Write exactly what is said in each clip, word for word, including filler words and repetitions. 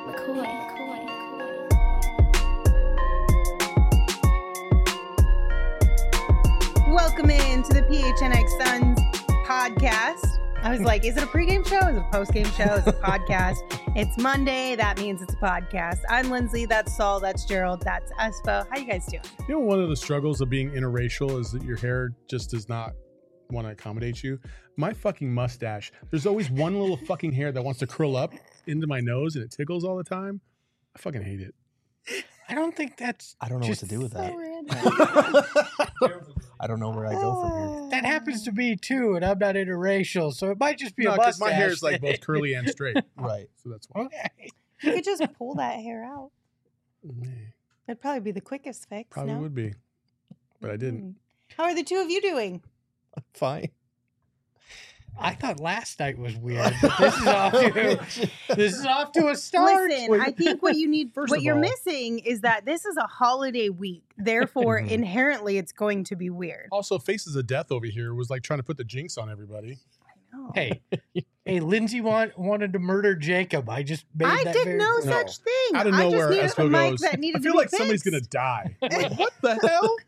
McCoy. McCoy. Welcome in to the P H N X Suns podcast. I was like, is it a pregame show? Is it a postgame show? Is it a podcast? It's Monday. That means it's a podcast. I'm Lindsay. That's Saul. That's Gerald. That's Espo. How you guys doing? You know, one of the struggles of being interracial is that your hair just does not want to accommodate you. My fucking mustache, there's always one little fucking hair that wants to curl up into my nose and it tickles all the time. I fucking hate it. I don't think that's. I don't know what to do with So that. random. I don't know where I go from here. That happens to me too, and I'm not interracial, so it might just be No, a because mustache. my hair is like both curly and straight. Right. So that's why. Okay. You could just pull that hair out. Mm, That'd probably be the quickest fix. Probably no? would be. But I didn't. Mm. How are the two of you doing? Fine. I thought last night was weird, but this is off to this is off to a start. Listen, I think what you need, First what of you're all- missing is that this is a holiday week. Therefore, Mhm. inherently, it's going to be weird. Also, Faces of Death over here was like trying to put the jinx on everybody. No. Hey, hey, Lindsay want, wanted to murder Jacob. I just made I that did very no clear. No. such thing. Out of I nowhere, just needed a Espo mic goes, that needed I feel to be like somebody's going fixed. to die. I'm like, what the hell?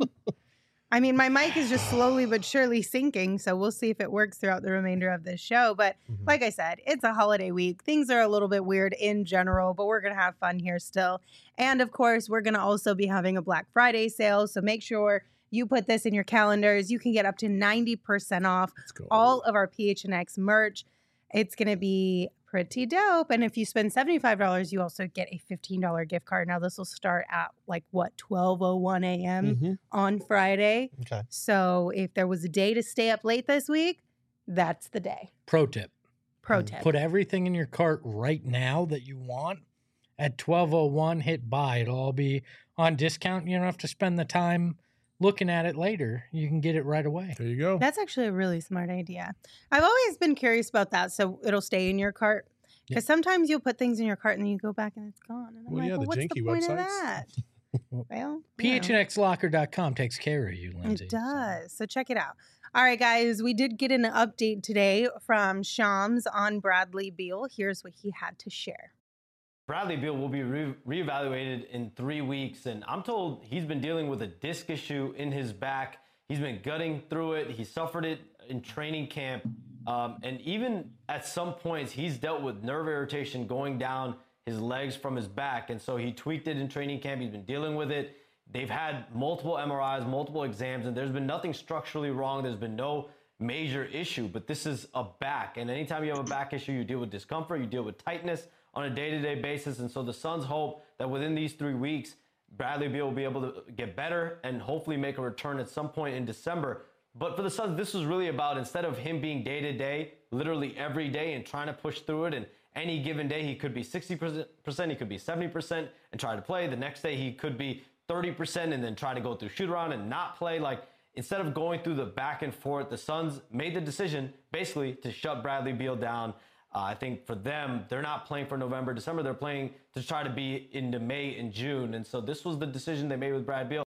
I mean, my mic is just slowly but surely sinking, so we'll see if it works throughout the remainder of this show. But Mhm. like I said, it's a holiday week. Things are a little bit weird in general, but we're going to have fun here still. And of course, we're going to also be having a Black Friday sale, so make sure you put this in your calendars. You can get up to ninety percent off Let's go. all of our P H N X merch. It's going to be pretty dope. And if you spend seventy-five dollars, you also get a fifteen dollars gift card. Now, this will start at like, what, twelve oh one a.m. Mhm. on Friday. Okay. So if there was a day to stay up late this week, that's the day. Pro tip: Pro Mm, tip. put everything in your cart right now that you want. At twelve oh one, hit buy. It'll all be on discount. You don't have to spend the time looking at it later. You can get it right away. There you go. That's actually a really smart idea. I've always been curious about that. So it'll stay in your cart. Because sometimes you'll put things in your cart and then you go back and it's gone. And I'm Well, like, yeah, well, the what's the janky point of websites. that? Well, P you H know. N X locker dot com takes care of you, Lindsay. It does. So check it out. All right, guys, we did get an update today from Shams on Bradley Beal. Here's what he had to share. Bradley Beal will be re- reevaluated in three weeks, and I'm told he's been dealing with a disc issue in his back. He's been gutting through it. He suffered it in training camp, um, and even at some points, he's dealt with nerve irritation going down his legs from his back, and so he tweaked it in training camp. He's been dealing with it. They've had multiple M R Is, multiple exams, and there's been nothing structurally wrong. There's been no major issue, but this is a back, and anytime you have a back issue, you deal with discomfort, you deal with tightness on a day-to-day basis. And so the Suns hope that within these three weeks, Bradley Beal will be able to get better and hopefully make a return at some point in December. But for the Suns, this was really about, instead of him being day-to-day, literally every day and trying to push through it, and any given day he could be sixty percent, he could be seventy percent and try to play. The next day he could be thirty percent and then try to go through shoot around and not play. Like, instead of going through the back and forth, the Suns made the decision basically to shut Bradley Beal down. Uh, I think for them, they're not playing for November, December. They're playing to try to be into May and June. And so this was the decision they made with Brad Beal.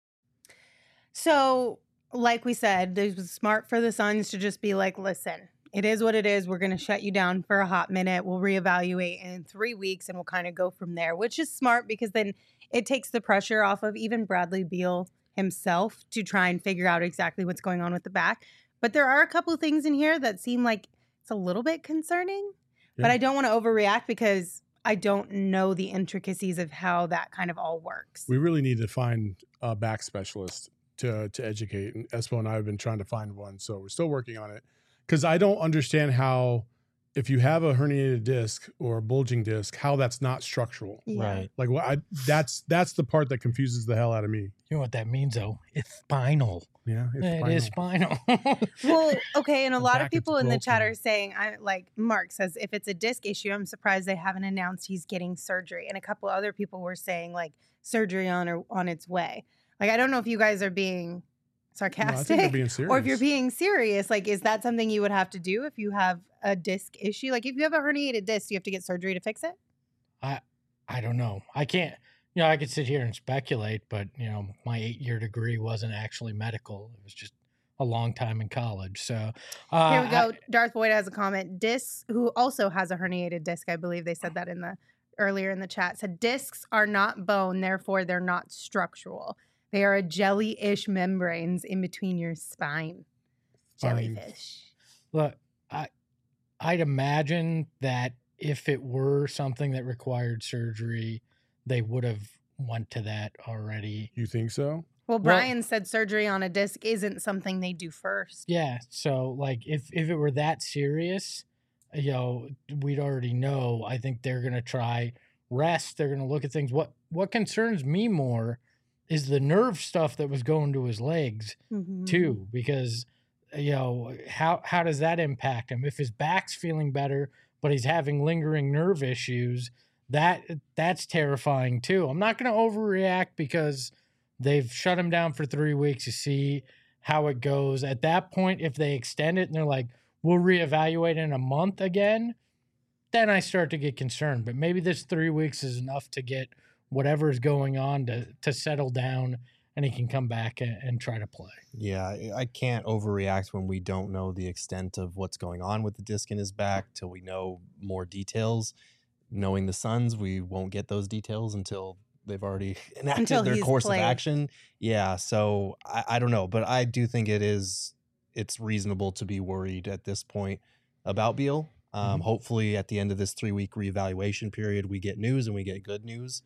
So, like we said, it was smart for the Suns to just be like, listen, it is what it is. We're going to shut you down for a hot minute. We'll reevaluate in three weeks and we'll kind of go from there, which is smart because then it takes the pressure off of even Bradley Beal himself to try and figure out exactly what's going on with the back. But there are a couple of things in here that seem like it's a little bit concerning, Yeah. but I don't want to overreact because I don't know the intricacies of how that kind of all works. We really need to find a back specialist to to educate. And Espo and I have been trying to find one, so we're still working on it. Because I don't understand how, if you have a herniated disc or a bulging disc, how that's not structural. Yeah. Right. Like, what I that's that's the part that confuses the hell out of me. You know what that means, though? It's spinal. Yeah, it's It is spinal. Well, okay, and a The lot back of is people in the broken. chat are saying, I like Mark says, if it's a disc issue, I'm surprised they haven't announced he's getting surgery. And a couple other people were saying like surgery on or on its way. Like, I don't know if you guys are being No, I sarcastic think they're being serious. or if you're being serious. Like, is that something you would have to do if you have a disc issue? Like, if you have a herniated disc, do you have to get surgery to fix it? I I don't know. I can't. You know, I could sit here and speculate, but you know, my eight-year degree wasn't actually medical. It was just a long time in college. So uh, Here we go. I- Darth Boyd has a comment. Disc, who also has a herniated disc, I believe they said that in the earlier in the chat said discs are not bone, therefore they're not structural. They are a jelly-ish membranes in between your spine. Fine. Jellyfish. Look, I, I'd imagine that if it were something that required surgery, they would have went to that already. You think so? Well, Well- Brian said surgery on a disc isn't something they do first. Yeah. So, like, if if it were that serious, you know, we'd already know. I think they're gonna try rest. They're gonna look at things. What what concerns me more is the nerve stuff that was going to his legs Mhm. too, because you know how how does that impact him if his back's feeling better but he's having lingering nerve issues? That that's terrifying too. I'm not going to overreact because they've shut him down for three weeks to see how it goes. At that point, if they extend it and they're like, we'll reevaluate in a month again, then I start to get concerned. But maybe this three weeks is enough to get whatever is going on to to settle down, and he can come back and, and try to play. Yeah, I- I can't overreact when we don't know the extent of what's going on with the disc in his back till we know more details. Knowing the Suns, we won't get those details until they've already enacted Until their he's course played. of action. Yeah, so I, I don't know, but I do think it is it's reasonable to be worried at this point about Beal. Um, Mhm. Hopefully, at the end of this three week reevaluation period, we get news and we get good news.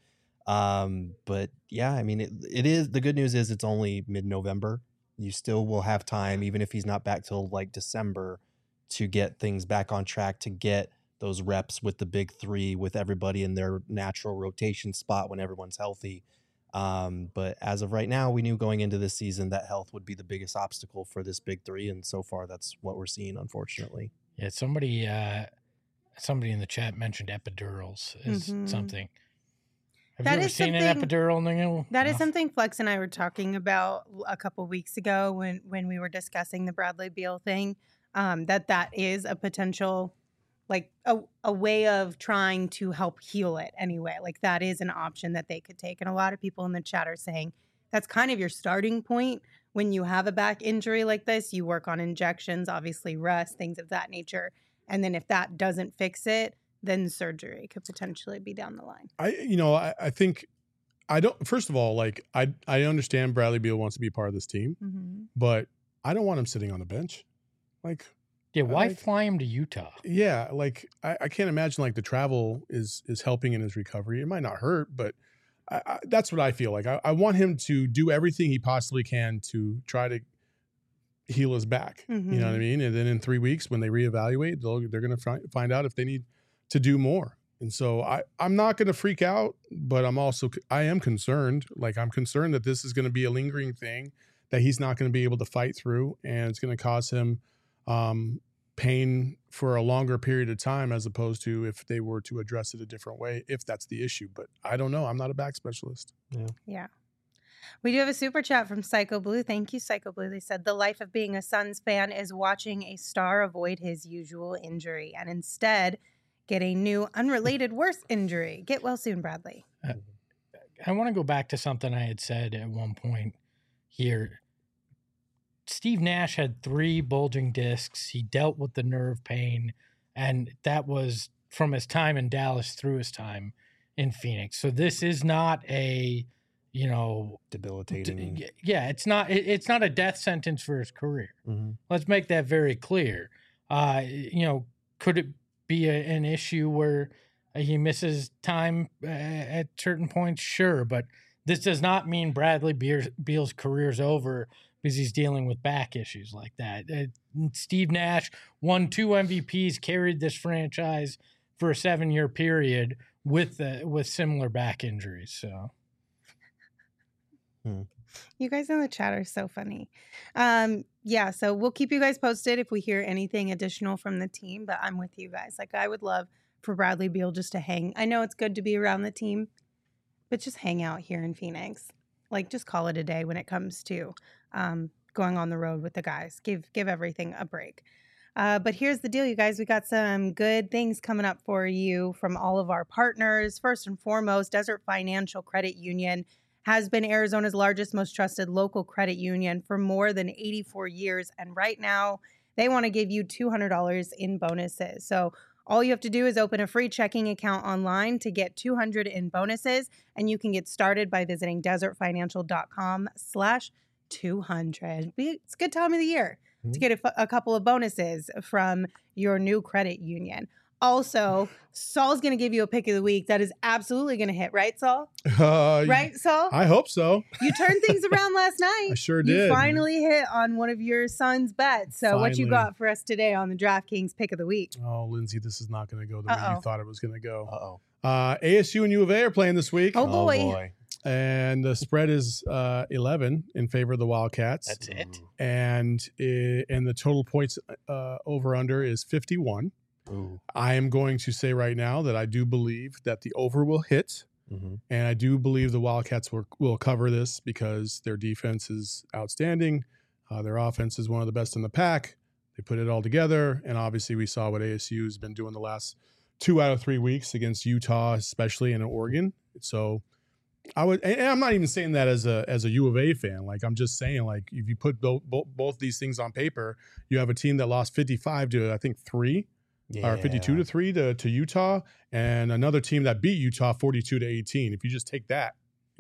Um, but yeah, I mean, it, it is the good news is it's only mid November. You still will have time, even if he's not back till like December, to get things back on track, to get those reps with the big three, with everybody in their natural rotation spot when everyone's healthy. Um, but as of right now, we knew going into this season that health would be the biggest obstacle for this big three, and so far that's what we're seeing, unfortunately. Yeah, somebody uh somebody in the chat mentioned epidurals is Mhm. something. Have That you ever is seen an something- epidural, Neil? That is No. something Flex and I were talking about a couple weeks ago when when we were discussing the Bradley Beal thing. Um, that that is a potential, like a a way of trying to help heal it anyway. Like that is an option that they could take. And a lot of people in the chat are saying that's kind of your starting point when you have a back injury like this. You work on injections, obviously rest, things of that nature, and then if that doesn't fix it, then surgery could potentially be down the line. I, you know, I, I think I don't. First of all, like I, I understand Bradley Beal wants to be part of this team, Mm-hmm. but I don't want him sitting on the bench. Like, Yeah, why like- fly him to Utah? yeah, like I, I can't imagine like the travel is is helping in his recovery. It might not hurt, but I, I, that's what I feel like. I, I want him to do everything he possibly can to try to heal his back. You know what I Mhm. mean? And then in three weeks, when they reevaluate, they'll, they're going to fi- find out if they need to do more. And so I, I'm not going to freak out, but I'm also, I am concerned. Like I'm concerned that this is going to be a lingering thing that he's not going to be able to fight through. And it's going to cause him um, pain for a longer period of time, as opposed to if they were to address it a different way, if that's the issue. But I don't know. I'm not a back specialist. Yeah. We do have a super chat from Psycho Blue. Thank you, Psycho Blue. They said the life of being a Suns fan is watching a star avoid his usual injury and instead get a new, unrelated, worse injury. Get well soon, Bradley. I want to go back to something I had said at one point here. Steve Nash had three bulging discs. He dealt with the nerve pain, and that was from his time in Dallas through his time in Phoenix. So this is not a, you know, Debilitating. d- yeah, it's not it- it's not a death sentence for his career. Mhm. Let's make that very clear. Uh, you know, could it be a, an issue where he misses time uh, at certain points? Sure, but this does not mean Bradley Beal's, Beal's career's over because he's dealing with back issues like that. Uh, Steve Nash won two M V Ps, carried this franchise for a seven-year period with uh, with similar back injuries. So. You guys in the chat are so funny. Um, yeah, so we'll keep you guys posted if we hear anything additional from the team, but I'm with you guys. Like, I would love for Bradley Beal just to hang. I know it's good to be around the team, but just hang out here in Phoenix. Like, just call it a day when it comes to um, going on the road with the guys. Give give everything a break. Uh, but here's the deal, you guys. We got some good things coming up for you from all of our partners. First and foremost, Desert Financial Credit Union has been Arizona's largest, most trusted local credit union for more than eighty-four years. And right now, they want to give you two hundred dollars in bonuses. So All you have to do is open a free checking account online to get two hundred in bonuses, and you can get started by visiting desertfinancial.com slash 200. It's a good time of the year to get a, a couple of bonuses from your new credit union. Also, Saul's going to give you a pick of the week that is absolutely going to hit, right, Saul? Uh, Right, Saul? I hope so. You turned things around last night. I sure You did. finally hit on one of your son's bets. So what you Finally. got for us today on the DraftKings pick of the week? Oh, Lindsay, this is not going to go the way Uh-oh. you thought it was going to go. Uh-oh. Uh, A S U and U of A are playing this week, Oh, boy. and the spread is uh, eleven in favor of the Wildcats. That's it. and it, and the total points uh, over under is fifty-one. Ooh. I am going to say right now that I do believe that the over will hit, Mm-hmm. and I do believe the Wildcats will, will cover this because their defense is outstanding. Uh, their offense is one of the best in the pack. They put it all together, and obviously we saw what A S U has been doing the last two out of three weeks against Utah, especially in Oregon. So I would, and I'm not even saying that as a as a U of A fan. Like I'm just saying, like if you put both both, both these things on paper, you have a team that lost fifty-five to I think three. Or fifty-two to three to, to Utah, and another team that beat Utah forty-two to eighteen. If you just take that,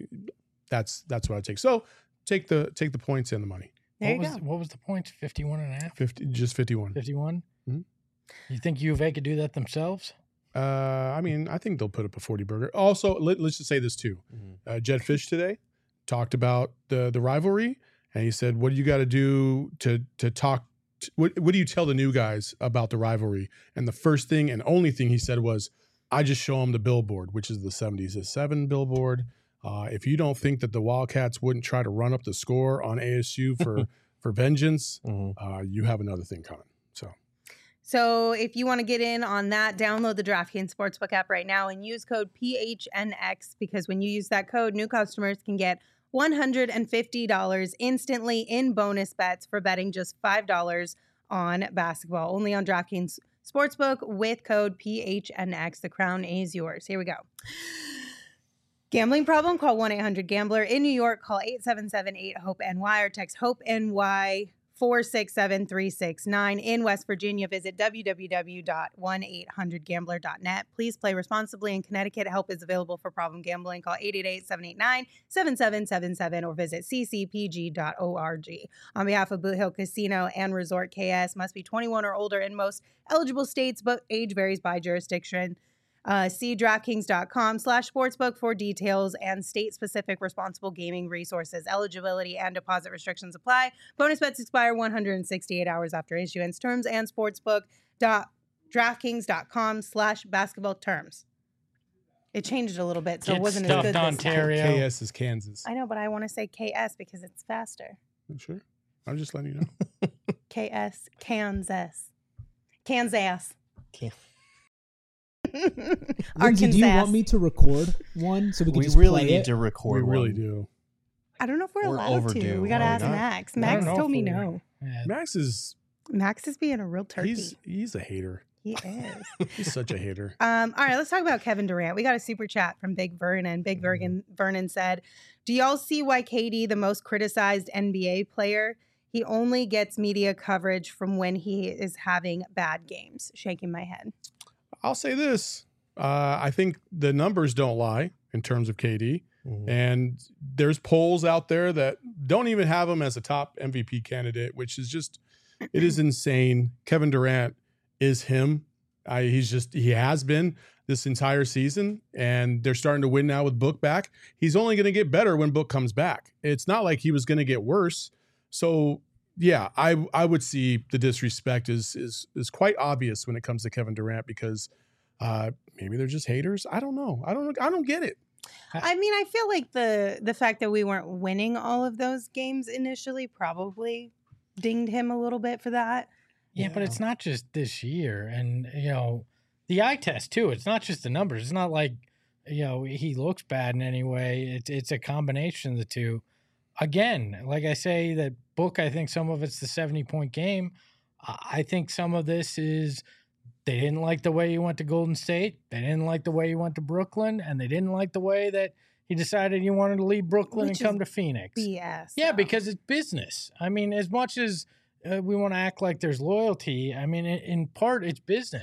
that's that's what I take. So take the take the points and the money. There what you was go. what was the points? fifty-one and a half? Fifty, just fifty-one. fifty-one? Mhm. You think U of A could do that themselves? Uh, I mean, I think they'll put up a forty burger. Also, let, let's just say this too. Mhm. Uh, Jed Fish today talked about the the rivalry, and he said, "What do you got to do to to talk?" What, what do you tell the new guys about the rivalry? And the first thing and only thing he said was, I just show them the billboard, which is the seventy-seven billboard. Uh, if you don't think that the Wildcats wouldn't try to run up the score on A S U for, for vengeance, Mm-hmm. uh, you have another thing coming. So So if you want to get in on that, download the DraftKings Sportsbook app right now and use code P H N X, because when you use that code, new customers can get one hundred fifty dollars instantly in bonus bets for betting just five dollars on basketball. Only on DraftKings Sportsbook with code P H N X. The crown is yours. Here we go. Gambling problem? Call one eight hundred gambler. In New York, call eight seven seven eight hope N Y or text HOPE-NY four six seven three six nine. In West Virginia, visit w w w dot one eight hundred gambler dot net. Please play responsibly. In Connecticut, help is available for problem gambling. Call eight eight eight, seven eight nine, seven seven seven seven or visit c c p g dot org. On behalf of Boot Hill Casino and Resort K S, must be twenty-one or older in most eligible states, but age varies by jurisdiction. Uh, see DraftKings.com slash sportsbook for details and state-specific responsible gaming resources. Eligibility and deposit restrictions apply. Bonus bets expire one hundred sixty-eight hours after issuance. Terms and sportsbook dot DraftKings.com slash basketball terms. It changed a little bit, so Get it wasn't as stuffed, good this time. Ontario. K S is Kansas. I know, but I want to say K S because it's faster. Sure. I'm just letting you know. K S, Kansas. Kansas. Can- Lindsay, do you want me to record one so we can We just really play need it? to record We really one. do. I don't know if we're, We're allowed to. overdue. We got to Are we ask not? Max. I don't Max know told if me we're- no. Yeah. Max is Max is being a real turkey. he's he's a hater. He is. He's such a hater. Um, all right, let's talk about Kevin Durant. We got a super chat from Big Vernon. Big Vernon, Vernon said, do y'all see why K D, the most criticized N B A player, he only gets media coverage from when he is having bad games? Shaking my head. I'll say this. Uh, I think the numbers don't lie in terms of K D. Mhm. And there's polls out there that don't even have him as a top M V P candidate, which is just, it is insane. Kevin Durant is him. I, he's just, he has been this entire season, and they're starting to win now with Book back. He's only going to get better when Book comes back. It's not like he was going to get worse. So yeah, I I would see the disrespect is is is quite obvious when it comes to Kevin Durant, because uh, maybe they're just haters. I don't know. I don't I don't get it. I mean, I feel like the the fact that we weren't winning all of those games initially probably dinged him a little bit for that. Yeah, but it's not just this year. And, you know, the eye test, too. It's not just the numbers. It's not like, you know, he looks bad in any way. It's, it's a combination of the two. Again, like I say, that Book, I think some of it's the seventy-point game. I I think some of this is they didn't like the way he went to Golden State. They didn't like the way he went to Brooklyn. And they didn't like the way that he decided he wanted to leave Brooklyn Which and come is to Phoenix. B S. Yeah, though. because it's business. I mean, as much as uh, we want to act like there's loyalty, I mean, in, in part, it's business.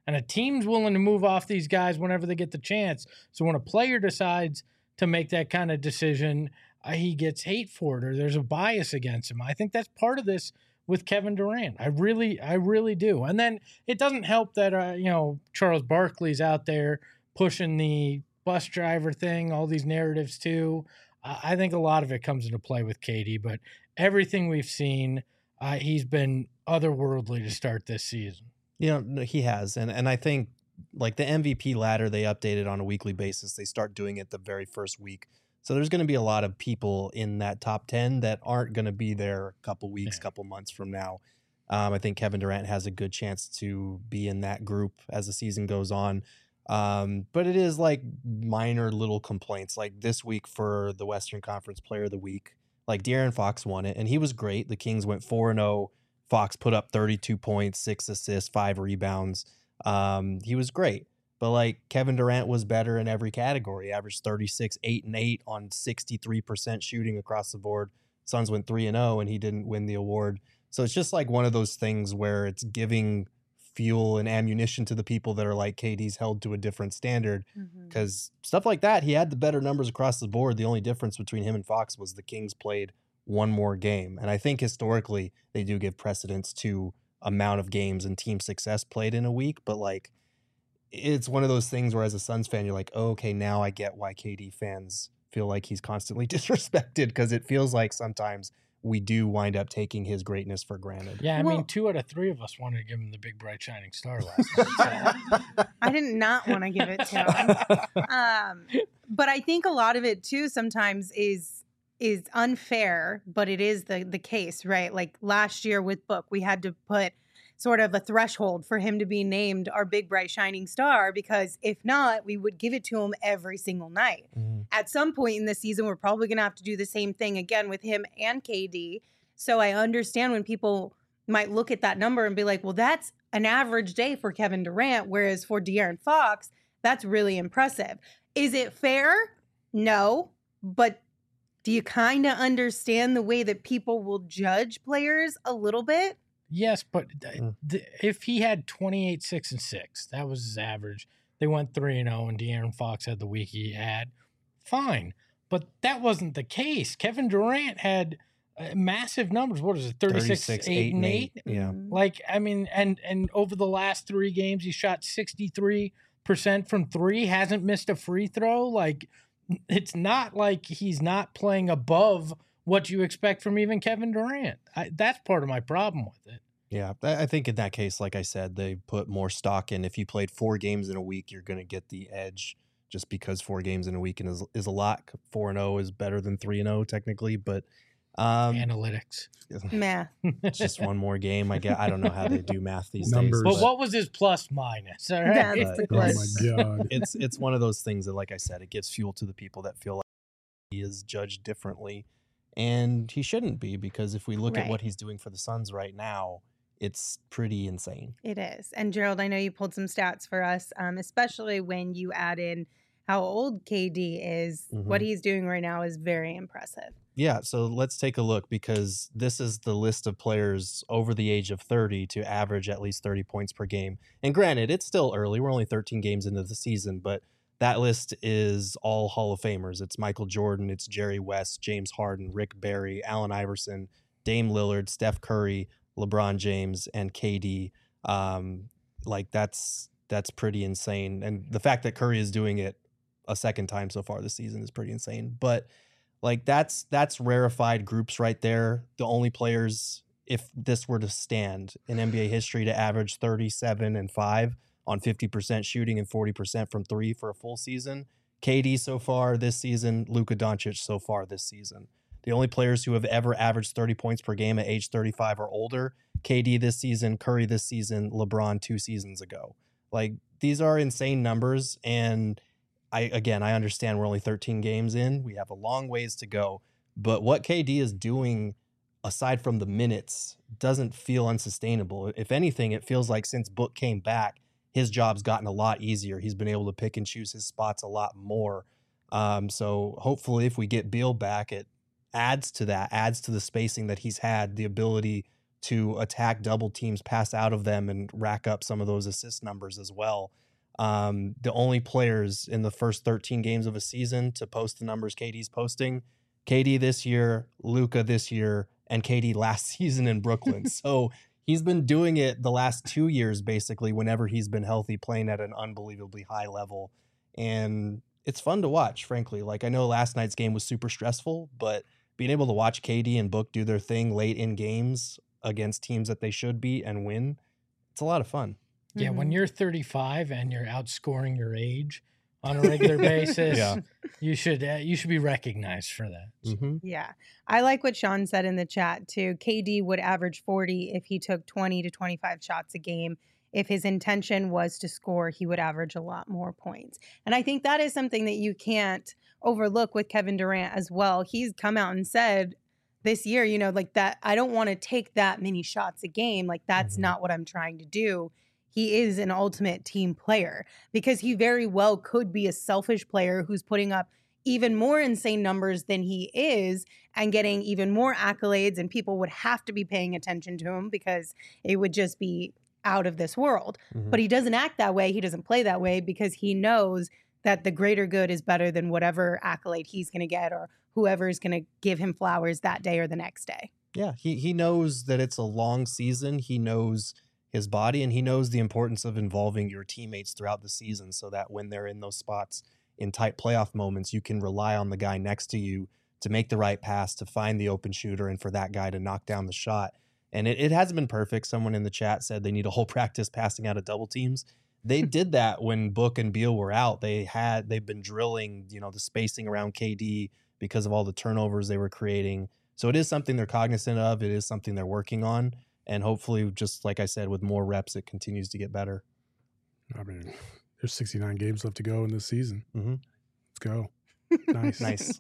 And a team's willing to move off these guys whenever they get the chance. So when a player decides to make that kind of decision, uh, he gets hate for it, or there's a bias against him. I think that's part of this with Kevin Durant. I really, I really do. And then it doesn't help that, uh, you know, Charles Barkley's out there pushing the bus driver thing, all these narratives too. Uh, I think a lot of it comes into play with K D, but everything we've seen, uh, he's been otherworldly to start this season. You know, no, he has. And, and I think like the M V P ladder, they update it on a weekly basis. They start doing it the very first week. So there's going to be a lot of people in that top ten that aren't going to be there a couple weeks, yeah. couple months from now. Um, I think Kevin Durant has a good chance to be in that group as the season goes on. Um, but it is like minor little complaints. Like this week for the Western Conference Player of the Week, like De'Aaron Fox won it, and he was great. The Kings went four and oh. Fox put up thirty-two points, six assists, five rebounds. Um, he was great. But like Kevin Durant was better in every category. Averaged thirty-six, eight and eight on sixty-three percent shooting across the board. Suns went three and oh, and he didn't win the award. So it's just like one of those things where it's giving fuel and ammunition to the people that are like K D's held to a different standard. Because mm-hmm. stuff like that, he had the better numbers across the board. The only difference between him and Fox was the Kings played one more game. And I think historically they do give precedence to amount of games and team success played in a week. But like, it's one of those things where as a Suns fan, you're like, oh, okay, now I get why K D fans feel like he's constantly disrespected, because it feels like sometimes we do wind up taking his greatness for granted. Yeah, I well, mean, two out of three of us wanted to give him the big, bright, shining star last night. So. I did not want to give it to him. Um, but I think a lot of it, too, sometimes is is unfair, but it is the the case, right? Like last year with Book, we had to put sort of a threshold for him to be named our big, bright, shining star, because if not, we would give it to him every single night. Mm-hmm. At some point in the season, we're probably going to have to do the same thing again with him and K D. So I understand when people might look at that number and be like, well, that's an average day for Kevin Durant, whereas for De'Aaron Fox, that's really impressive. Is it fair? No. But do you kind of understand the way that people will judge players a little bit? Yes, but th- th- if he had twenty-eight, six, and six, that was his average. They went three and oh, and De'Aaron Fox had the week he had. Fine. But that wasn't the case. Kevin Durant had uh, massive numbers. What is it? thirty-six, thirty-six eight, eight, and eight? eight. Yeah. Like, I mean, and and over the last three games, he shot sixty-three percent from three, hasn't missed a free throw. Like, it's not like he's not playing above what you expect from even Kevin Durant. I, that's part of my problem with it. Yeah, I think in that case, like I said, they put more stock in. If you played four games in a week, you're going to get the edge just because four games in a week is, is a lot. four and oh is better than three and oh technically, but um, analytics. Math. It's just one more game. I guess I don't know how they do math these Numbers. days. But what was his plus minus? All right. That's the Oh question. my God. It's it's one of those things that, like I said, it gives fuel to the people that feel like he is judged differently. And he shouldn't be, because if we look Right. at what he's doing for the Suns right now, it's pretty insane. It is. And Gerald, I know you pulled some stats for us, um, especially when you add in how old K D is. Mhm. What he's doing right now is very impressive. Yeah, so let's take a look, because this is the list of players over the age of thirty to average at least thirty points per game. And granted, it's still early. We're only thirteen games into the season, but that list is all Hall of Famers. It's Michael Jordan, it's Jerry West, James Harden, Rick Barry, Allen Iverson, Dame Lillard, Steph Curry, LeBron James, and K D. Um, like that's that's pretty insane. And the fact that Curry is doing it a second time so far this season is pretty insane. But like that's that's rarefied groups right there. The only players, if this were to stand in N B A history, to average thirty-seven and five on fifty percent shooting and forty percent from three for a full season. K D so far this season, Luka Doncic so far this season. The only players who have ever averaged thirty points per game at age thirty-five or older, K D this season, Curry this season, LeBron two seasons ago. Like, these are insane numbers. And I, again, I understand we're only thirteen games in. We have a long ways to go. But what K D is doing, aside from the minutes, doesn't feel unsustainable. If anything, it feels like since Book came back, his job's gotten a lot easier. He's been able to pick and choose his spots a lot more. Um, so hopefully if we get Beal back, it adds to that, adds to the spacing that he's had, the ability to attack double teams, pass out of them, and rack up some of those assist numbers as well. Um, the only players in the first thirteen games of a season to post the numbers K D's posting, K D this year, Luka this year, and K D last season in Brooklyn. So he's been doing it the last two years, basically, whenever he's been healthy, playing at an unbelievably high level. And it's fun to watch, frankly. Like, I know last night's game was super stressful, but being able to watch K D and Book do their thing late in games against teams that they should beat and win, it's a lot of fun. Yeah, Mm-hmm. when you're thirty-five and you're outscoring your age on a regular basis, Yeah. you should uh, you should be recognized for that. Mm-hmm. Yeah. I like what Sean said in the chat too. K D would average forty if he took twenty to twenty-five shots a game. If his intention was to score, he would average a lot more points. And I think that is something that you can't overlook with Kevin Durant as well. He's come out and said this year, you know, like that, I don't want to take that many shots a game. Like, that's Mhm. not what I'm trying to do. He is an ultimate team player because he very well could be a selfish player who's putting up even more insane numbers than he is and getting even more accolades, and people would have to be paying attention to him because it would just be out of this world. Mhm. But he doesn't act that way. He doesn't play that way because he knows that the greater good is better than whatever accolade he's going to get or whoever is going to give him flowers that day or the next day. Yeah, he he knows that it's a long season. He knows his body, and he knows the importance of involving your teammates throughout the season so that when they're in those spots in tight playoff moments, you can rely on the guy next to you to make the right pass, to find the open shooter, and for that guy to knock down the shot. And it, it hasn't been perfect. Someone in the chat said they need a whole practice passing out of double teams. They did that when Book and Beal were out. They had they've been drilling, you know, the spacing around K D because of all the turnovers they were creating. So it is something they're cognizant of. It is something they're working on. And hopefully, just like I said, with more reps, it continues to get better. I mean, there's sixty-nine games left to go in this season. Mm-hmm. Let's go. Nice. Nice.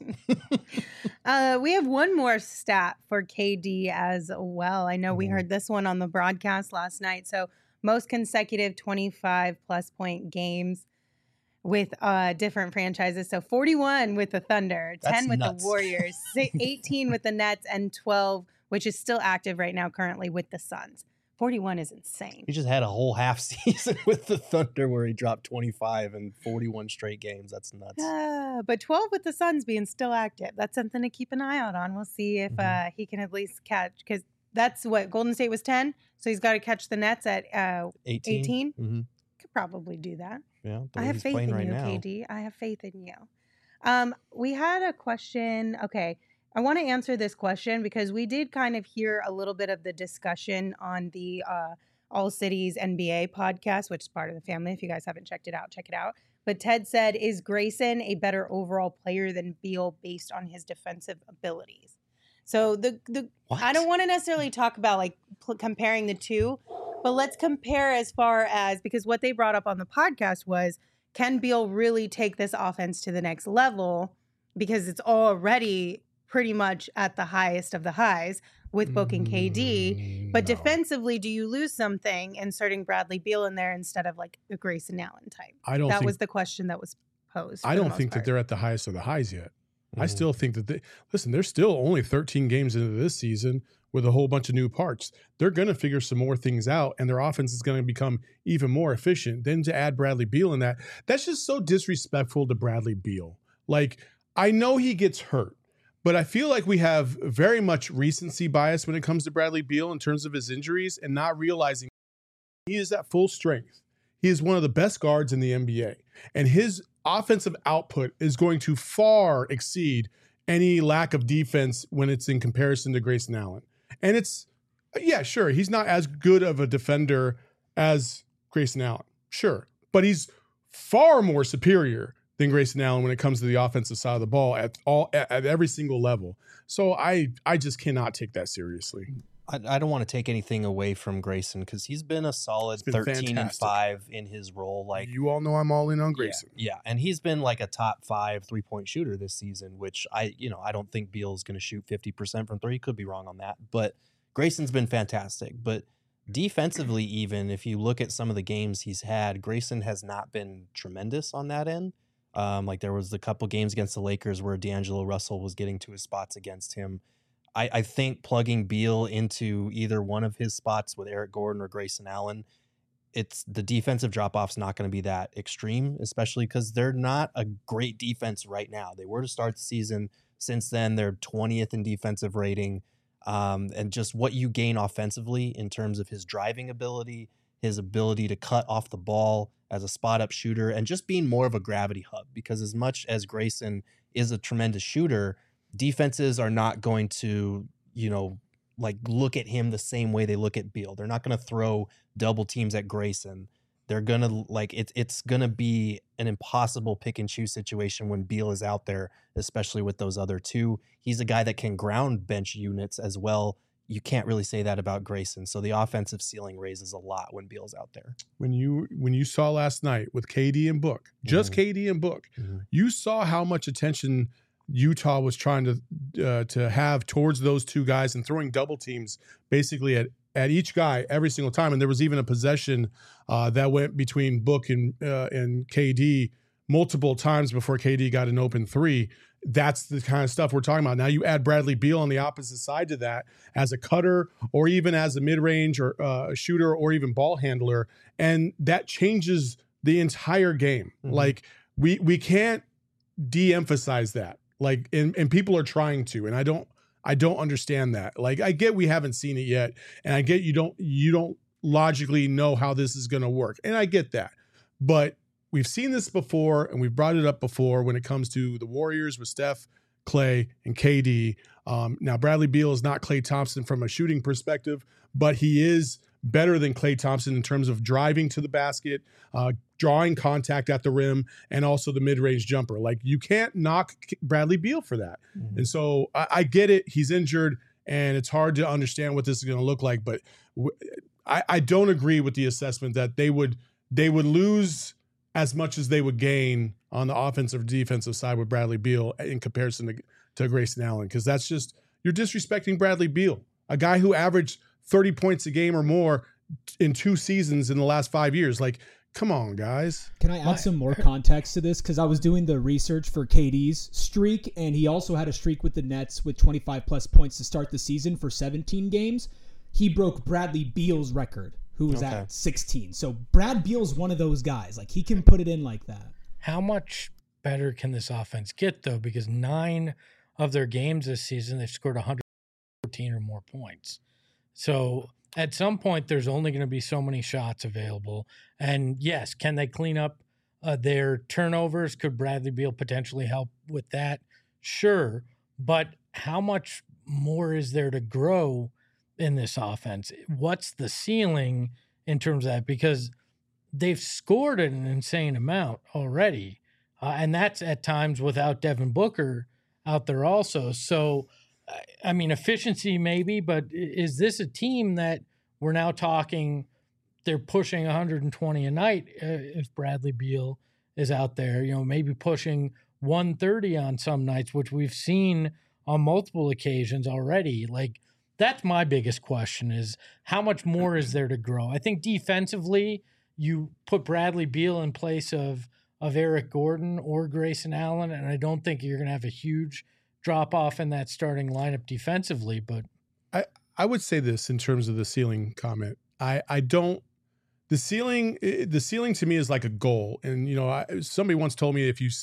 Uh, we have one more stat for K D as well. I know we Mhm. heard this one on the broadcast last night. So most consecutive twenty-five plus point games with uh, different franchises. So forty-one with the Thunder, That's ten with nuts. the Warriors, si- eighteen with the Nets, and twelve, which is still active right now currently, with the Suns. forty-one is insane. He just had a whole half season with the Thunder where he dropped twenty-five in forty-one straight games. That's nuts. Uh, but twelve with the Suns being still active. That's something to keep an eye out on. We'll see if Mhm. uh, he can at least catch, because that's what Golden State was ten. So he's got to catch the Nets at uh, eighteen. eighteen. Mm-hmm. Could probably do that. Yeah, the I way have he's faith playing in right you, now. K D. I have faith in you. Um, we had a question. Okay. I want to answer this question because we did kind of hear a little bit of the discussion on the uh, All Cities N B A podcast, which is part of the family. If you guys haven't checked it out, check it out. But Ted said, is Grayson a better overall player than Beal based on his defensive abilities? So the the What? I don't want to necessarily talk about like pl- comparing the two, but let's compare as far as, because what they brought up on the podcast was, can Beal really take this offense to the next level? Because it's already pretty much at the highest of the highs with Book and K D. But No. defensively, do you lose something inserting Bradley Beal in there instead of like a Grayson Allen type? I don't That think was the question that was posed. I for the don't most think that part. they're at the highest of the highs yet. I Mhm. still think that they listen, they're still only thirteen games into this season with a whole bunch of new parts. They're going to figure some more things out, and their offense is going to become even more efficient. Then to add Bradley Beal in that, that's just so disrespectful to Bradley Beal. Like, I know he gets hurt, but I feel like we have very much recency bias when it comes to Bradley Beal in terms of his injuries and not realizing he is at full strength. He is one of the best guards in the N B A, and his offensive output is going to far exceed any lack of defense when it's in comparison to Grayson Allen. And it's, yeah, sure, he's not as good of a defender as Grayson Allen, sure, but he's far more superior than Grayson Allen when it comes to the offensive side of the ball at all at, at every single level. So I I just cannot take that seriously. I, I don't want to take anything away from Grayson because he's been a solid He's been thirteen and fantastic. five in his role. Like, You all know I'm all in on yeah, Grayson. yeah, and he's been like a top five three point shooter this season, which I, you know, I don't think Beal's going to shoot fifty percent from three. Could be wrong on that, but Grayson's been fantastic. But defensively, even if you look at some of the games he's had, Grayson has not been tremendous on that end. Um, like there was a couple games against the Lakers where D'Angelo Russell was getting to his spots against him. I, I think plugging Beal into either one of his spots with Eric Gordon or Grayson Allen, it's the defensive drop-off's not going to be that extreme, especially because they're not a great defense right now. They were to start the season. Since then, they're twentieth in defensive rating. Um, and just what you gain offensively in terms of his driving ability, his ability to cut off the ball as a spot-up shooter, and just being more of a gravity hub. Because as much as Grayson is a tremendous shooter, defenses are not going to, you know, like look at him the same way they look at Beal. They're not going to throw double teams at Grayson. They're going to like it's it's going to be an impossible pick and choose situation when Beal is out there, especially with those other two. He's a guy that can ground bench units as well. You can't really say that about Grayson. So the offensive ceiling raises a lot when Beal's out there. When you when you saw last night with K D and Book, just mm-hmm. K D and Book, mm-hmm. you saw how much attention Utah was trying to uh, to have towards those two guys and throwing double teams basically at, at each guy every single time. And there was even a possession uh, that went between Book and uh, and K D multiple times before K D got an open three. That's the kind of stuff we're talking about. Now you add Bradley Beal on the opposite side to that as a cutter or even as a mid-range or uh, a shooter or even ball handler, and that changes the entire game. Mm-hmm. Like we we can't de-emphasize that. Like, and, and people are trying to, and I don't, I don't understand that. Like, I get we haven't seen it yet, and I get you don't, you don't logically know how this is going to work, and I get that. But we've seen this before, and we've brought it up before when it comes to the Warriors with Steph, Klay, and K D. Um, now, Bradley Beal is not Klay Thompson from a shooting perspective, but he is better than Klay Thompson in terms of driving to the basket, uh, drawing contact at the rim, and also the mid-range jumper. Like, you can't knock Bradley Beal for that. Mm-hmm. And so I, I get it. He's injured, and it's hard to understand what this is going to look like. But w- I, I don't agree with the assessment that they would they would lose as much as they would gain on the offensive or defensive side with Bradley Beal in comparison to, to Grayson Allen, because that's just, you're disrespecting Bradley Beal, a guy who averaged thirty points a game or more in two seasons in the last five years. Like, come on, guys. Can I add some more context to this? Because I was doing the research for K D's streak, and he also had a streak with the Nets with twenty-five plus points to start the season for seventeen games. He broke Bradley Beal's record, who was okay. at sixteen. So Brad Beal's one of those guys. Like, he can put it in like that. How much better can this offense get, though? Because nine of their games this season, they've scored one hundred fourteen or more points. So at some point, there's only going to be so many shots available. And yes, can they clean up uh, their turnovers? Could Bradley Beal potentially help with that? Sure. But how much more is there to grow in this offense? What's the ceiling in terms of that? Because they've scored an insane amount already. Uh, and that's at times without Devin Booker out there also. So, I mean, efficiency maybe, but is this a team that we're now talking they're pushing one hundred twenty a night uh, if Bradley Beal is out there, you know, maybe pushing one thirty on some nights, which we've seen on multiple occasions already. Like, that's my biggest question is how much more is there to grow? I think defensively, you put Bradley Beal in place of, of Eric Gordon or Grayson Allen, and I don't think you're going to have a huge drop off in that starting lineup defensively, but I, I would say this in terms of the ceiling comment. I, I don't, the ceiling, the ceiling to me is like a goal. And, you know, I, somebody once told me if you,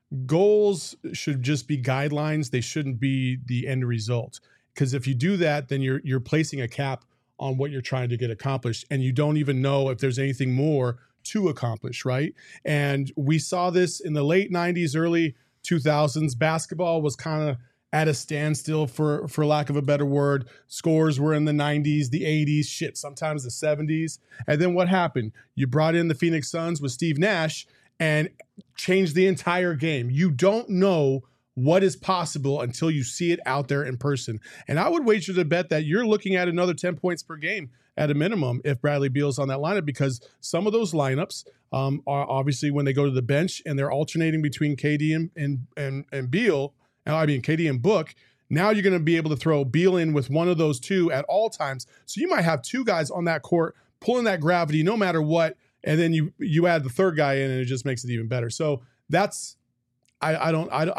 goals should just be guidelines. They shouldn't be the end result. Because if you do that, then you're, you're placing a cap on what you're trying to get accomplished. And you don't even know if there's anything more to accomplish. Right. And we saw this in the late nineties, early two thousands. Basketball was kind of at a standstill, for for lack of a better word. Scores were in the nineties, the eighties, shit, sometimes the seventies. And then what happened? You brought in the Phoenix Suns with Steve Nash and changed the entire game. You don't know what is possible until you see it out there in person. And I would wager to bet that you're looking at another ten points per game at a minimum if Bradley Beal's on that lineup, because some of those lineups um, are obviously when they go to the bench and they're alternating between K D and and and, and Beal, I mean K D and Book. Now you're going to be able to throw Beal in with one of those two at all times. So you might have two guys on that court pulling that gravity no matter what, and then you you add the third guy in and it just makes it even better. So that's I I don't I I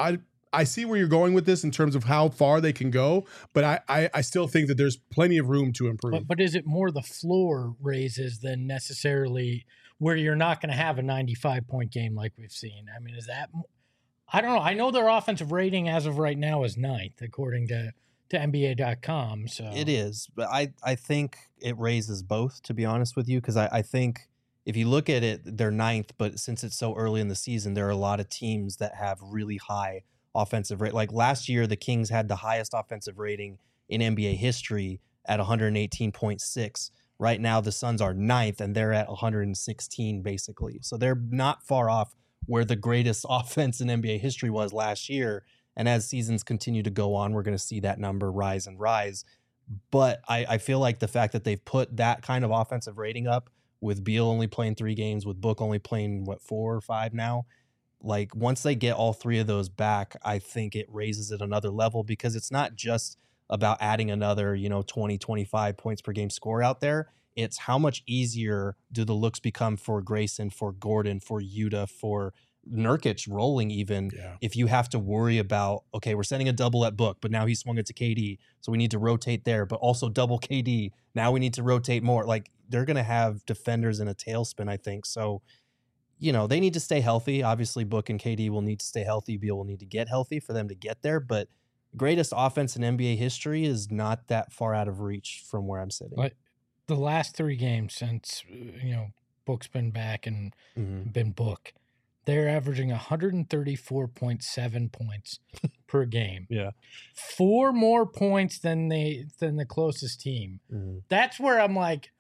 I see where you're going with this in terms of how far they can go, but I, I, I still think that there's plenty of room to improve. But, but is it more the floor raises than necessarily where you're not going to have a ninety-five point game like we've seen? I mean, is that, I don't know. I know their offensive rating as of right now is ninth, according to, to N B A dot com. So It is, but I, I think it raises both, to be honest with you, because I, I think if you look at it, they're ninth, but since it's so early in the season, there are a lot of teams that have really high offensive rate. Like last year, the Kings had the highest offensive rating in N B A history at one eighteen point six. Right now, the Suns are ninth, and they're at one sixteen, basically. So they're not far off where the greatest offense in N B A history was last year. And as seasons continue to go on, we're going to see that number rise and rise. But I, I feel like the fact that they've put that kind of offensive rating up, with Beal only playing three games, with Book only playing, what, four or five now? Like, once they get all three of those back, I think it raises it another level, because it's not just about adding another, you know, twenty, twenty-five points per game score out there. It's how much easier do the looks become for Grayson, for Gordon, for Yuta, for Nurkic rolling even, Yeah. if you have to worry about, okay, we're sending a double at Book, but now he swung it to K D, so we need to rotate there, but also double K D. Now we need to rotate more. Like, they're going to have defenders in a tailspin, I think. So, you know, they need to stay healthy. Obviously, Book and K D will need to stay healthy. Beal will need to get healthy for them to get there. But greatest offense in N B A history is not that far out of reach from where I'm sitting. But the last three games since, you know, Book's been back and Mhm. been Book, they're averaging one thirty-four point seven points per game. Yeah. Four more points than they than the closest team. Mhm. That's where I'm like,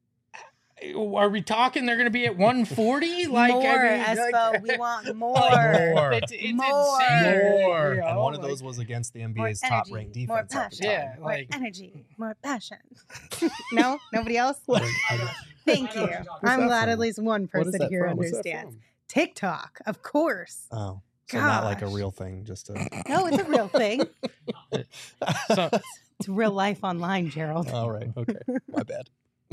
are we talking they're going to be at one forty? Like, more, I mean, Espo. like- We want more. More. It's, it's More. insane. More. You know, And one of like- those was against the More N B A's energy, top-ranked more defense at the passion, time. Yeah, more like- energy, more passion. No, nobody else. I- Thank you. that I'm glad from? at least one What is person that here from? What's that understands. from? TikTok, of course. Oh, so not like a Gosh. real thing, just a... No, it's a real thing. So, It's real life online, Gerald. All right, okay, my bad.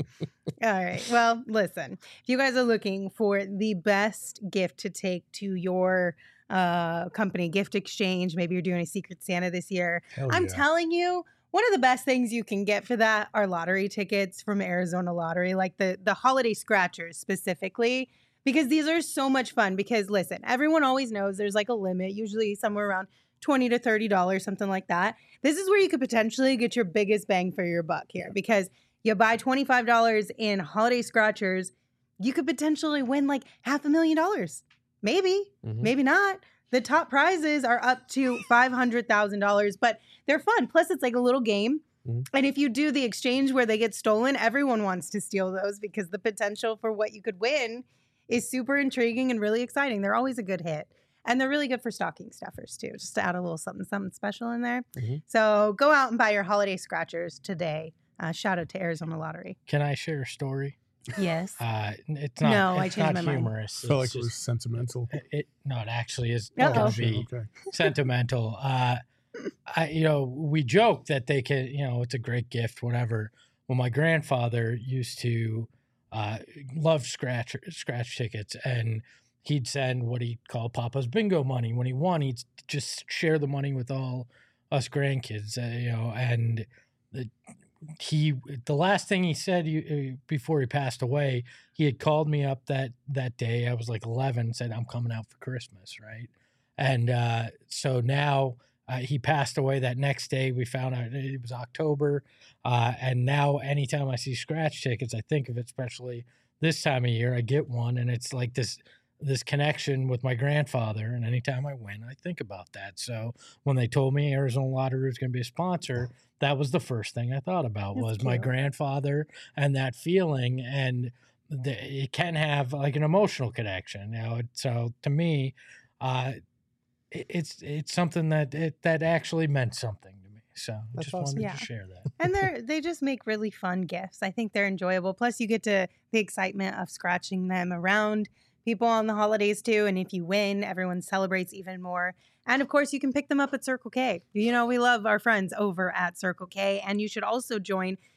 All right. Well, listen, if you guys are looking for the best gift to take to your uh, company gift exchange, maybe you're doing a Secret Santa this year. Hell I'm yeah. telling you, one of the best things you can get for that are lottery tickets from Arizona Lottery, like the the holiday scratchers specifically, because these are so much fun. Because listen, everyone always knows there's like a limit, usually somewhere around twenty to thirty dollars, something like that. This is where you could potentially get your biggest bang for your buck here, because you buy twenty-five dollars in holiday scratchers, you could potentially win like half a million dollars. Maybe, Mhm. maybe not. The top prizes are up to five hundred thousand dollars, but they're fun. Plus, it's like a little game. Mhm. And if you do the exchange where they get stolen, everyone wants to steal those, because the potential for what you could win is super intriguing and really exciting. They're always a good hit. And they're really good for stocking stuffers too, just to add a little something, something special in there. Mhm. So go out and buy your holiday scratchers today. Uh, shout out to Arizona Lottery. can I share a story? Yes. Uh, it's not. No, I it's changed not my mind. humorous. I felt It's like it was just- sentimental. it, it- no, it actually is Uh-oh. going to Sure, be okay. sentimental. Uh, I, you know, we joke that they can, you know, it's a great gift, whatever. Well, my grandfather used to uh, love scratch scratch tickets, and he'd send what he called Papa's bingo money. When he won, he'd just share the money with all us grandkids, uh, you know. And the, he, the last thing he said he, uh, before he passed away, he had called me up that that day. I was like eleven, said, "I'm coming out for Christmas," right? And uh, so now uh, he passed away that next day. We found out it was October. Uh, and now anytime I see scratch tickets, I think of it, especially this time of year, I get one. And it's like this this connection with my grandfather. And anytime I win, I think about that. So when they told me Arizona Lottery was going to be a sponsor, that was the first thing I thought about That's was my cute. grandfather and that feeling. And the, it can have like an emotional connection, you know. So to me, uh, it, it's it's something that it, that actually meant something to me. So I That's just awesome. wanted Yeah. to share that. And they're they just make really fun gifts. I think they're enjoyable. Plus, you get to the excitement of scratching them around people on the holidays too. And if you win, everyone celebrates even more. And of course, you can pick them up at Circle K. You know, we love our friends over at Circle K. And you should also join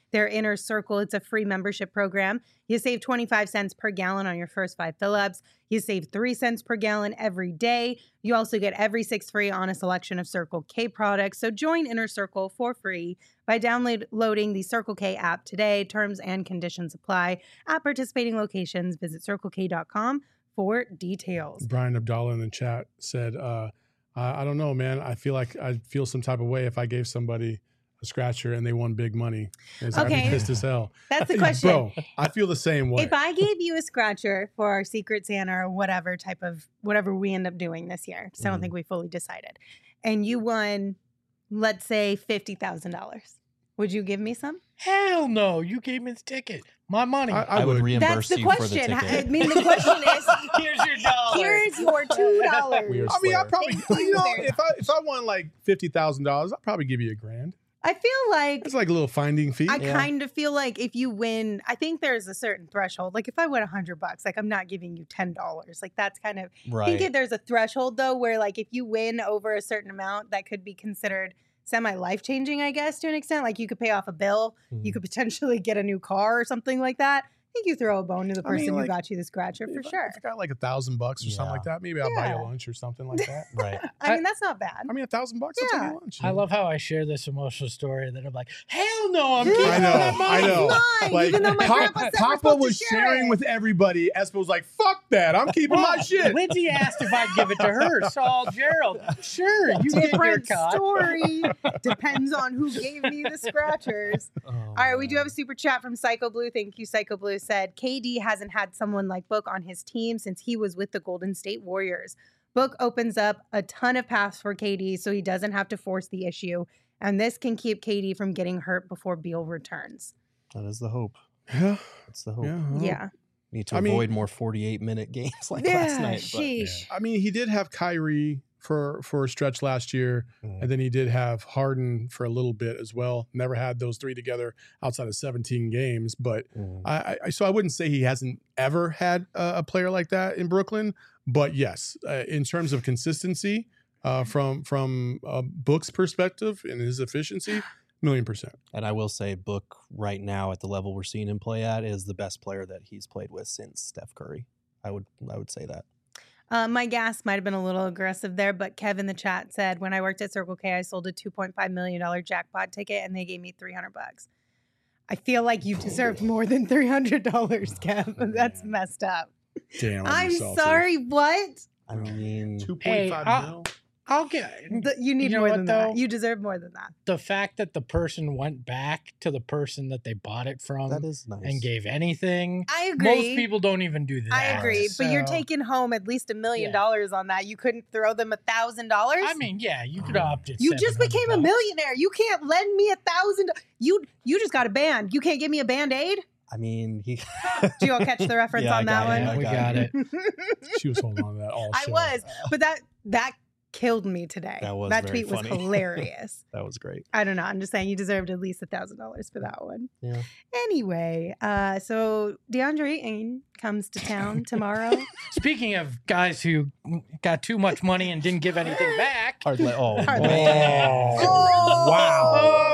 their Inner Circle. It's a free membership program. You save twenty-five cents per gallon on your first five fill-ups. You save three cents per gallon every day. You also get every six free on a selection of Circle K products. So join Inner Circle for free by downloading the Circle K app today. Terms and conditions apply. At participating locations, visit circle k dot com for details. Brian Abdallah in the chat said, uh, I, I don't know, man. I feel like I'd feel some type of way if I gave somebody a scratcher and they won big money. It's I'd Okay. be pissed as hell. That's the question. Bro, I feel the same way. If I gave you a scratcher for our Secret Santa or whatever type of, whatever we end up doing this year, because I don't Mhm. think we fully decided, and you won, let's say fifty thousand dollars, would you give me some? Hell no. You gave me the ticket. My money. I, I, I would would. reimburse That's the you for the question. I ticket. mean, the question is, Here's your dollar. here's your two dollars. We are I mean, I probably, you know, if I if I won like fifty thousand dollars, I'd probably give you a grand. I feel like It's like a little finding fee. I Yeah. kind of feel like if you win, I think there's a certain threshold. Like if I win a hundred bucks, like I'm not giving you ten dollars. Like that's kind of. I Right. think if there's a threshold though, where like if you win over a certain amount, that could be considered semi life changing, I guess, to an extent. Like you could pay off a bill, you Mhm. could potentially get a new car or something like that. I think you throw a bone to the I mean, person who like, got you the scratcher for if I, sure. If I got like a thousand bucks or something like that, maybe I'll buy Yeah. you lunch or something like that. Right. I mean, that's not bad. I mean, a thousand bucks, I'll Yeah. take you lunch. I love how I share this emotional story that I'm like, hell no, I'm keeping I know, that money. I know. Mine, Like, even though my Pop- grandpa said we're Papa supposed to was share sharing it. with everybody. Espo was like, fuck that. I'm keeping my Well, shit. Lindsay asked if I'd give it to her. Saul Gerald. Sure, you get your Different cut. story. Depends on who gave me the scratchers. Oh, All right, we do have a man. super chat from Psycho Blue. Thank you, Psycho Blue. Said K D hasn't had someone like Book on his team since he was with the Golden State Warriors. Book opens up a ton of paths for K D, so he doesn't have to force the issue, and this can keep K D from getting hurt before Beal returns. That is the hope. Yeah. That's the hope. Yeah. well, Yeah, Need to I mean- avoid more forty-eight minute games like yeah, last night. But sheesh. I mean, he did have Kyrie for for a stretch last year, Mhm. and then he did have Harden for a little bit as well. Never had those three together outside of seventeen games, but Mhm. I, I so I wouldn't say he hasn't ever had a, a player like that in Brooklyn. But yes, uh, in terms of consistency, uh, from from a Book's perspective and his efficiency, million percent. And I will say, Book right now at the level we're seeing him play at is the best player that he's played with since Steph Curry. I would I would say that. Uh, my gas might have been a little aggressive there, but Kev in the chat said, when I worked at Circle K, I sold a two point five million dollars jackpot ticket and they gave me three hundred bucks. I feel like you deserved more than three hundred dollars, Kev. That's messed up. Damn, I'm sorry, what? I mean, Two point Hey, five I- mil. I'll get The- you need You know more what, than though? that. You deserve more than that. the fact that the person went back to the person that they bought it from that is nice. and gave anything. I agree. Most people don't even do that. I agree, but you're so- taking home at least a million Yeah. dollars on that. You couldn't throw them a thousand dollars. I mean, yeah, you could opt it. You just became a millionaire. You can't lend me a thousand. You you just got a band. You can't give me a band aid. I mean, he. Do you all catch the reference Yeah, I on that got it. one? Yeah, I we got got it. it. She was holding on to that all I show. was, but that that killed me today. That was that very tweet was funny. hilarious. That was great. I don't know. I'm just saying you deserved at least a thousand dollars for that one. Yeah. Anyway, uh, so DeAndre Ayton comes to town tomorrow. Speaking of guys who got too much money and didn't give anything back. Hard le- oh, Hard man. left. Oh, wow.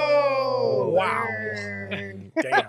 Oh, Wow. word. Damn.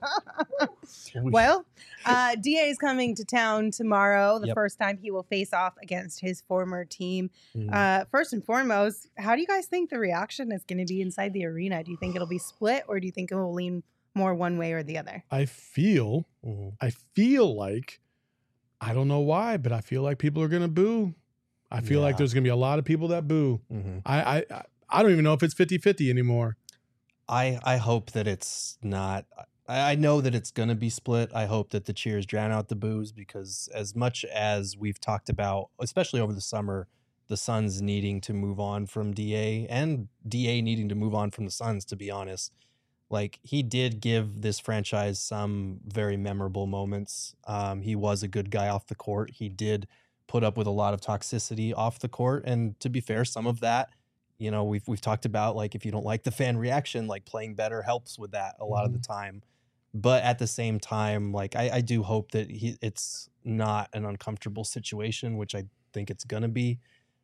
Well, uh, D A is coming to town tomorrow. The Yep. first time he will face off against his former team. Mm. Uh, first and foremost, how do you guys think the reaction is going to be inside the arena? Do you think it'll be split, or do you think it will lean more one way or the other? I feel, Mhm. I feel like, I don't know why, but I feel like people are gonna boo. I feel like Yeah. there's gonna be a lot of people that boo. Mhm. I, I, I don't even know if it's fifty-fifty anymore. I I hope that it's not. I, I know that it's gonna be split. I hope that the cheers drown out the boos, because as much as we've talked about, especially over the summer, the Suns needing to move on from D A and D A needing to move on from the Suns, to be honest. Like, he did give this franchise some very memorable moments. Um, he was a good guy off the court. He did put up with a lot of toxicity off the court, and to be fair, some of that, you know, we've we've talked about, like, if you don't like the fan reaction, like, playing better helps with that a lot of the time. But at the same time, like, I, I do hope that he it's not an uncomfortable situation, which I think it's gonna be.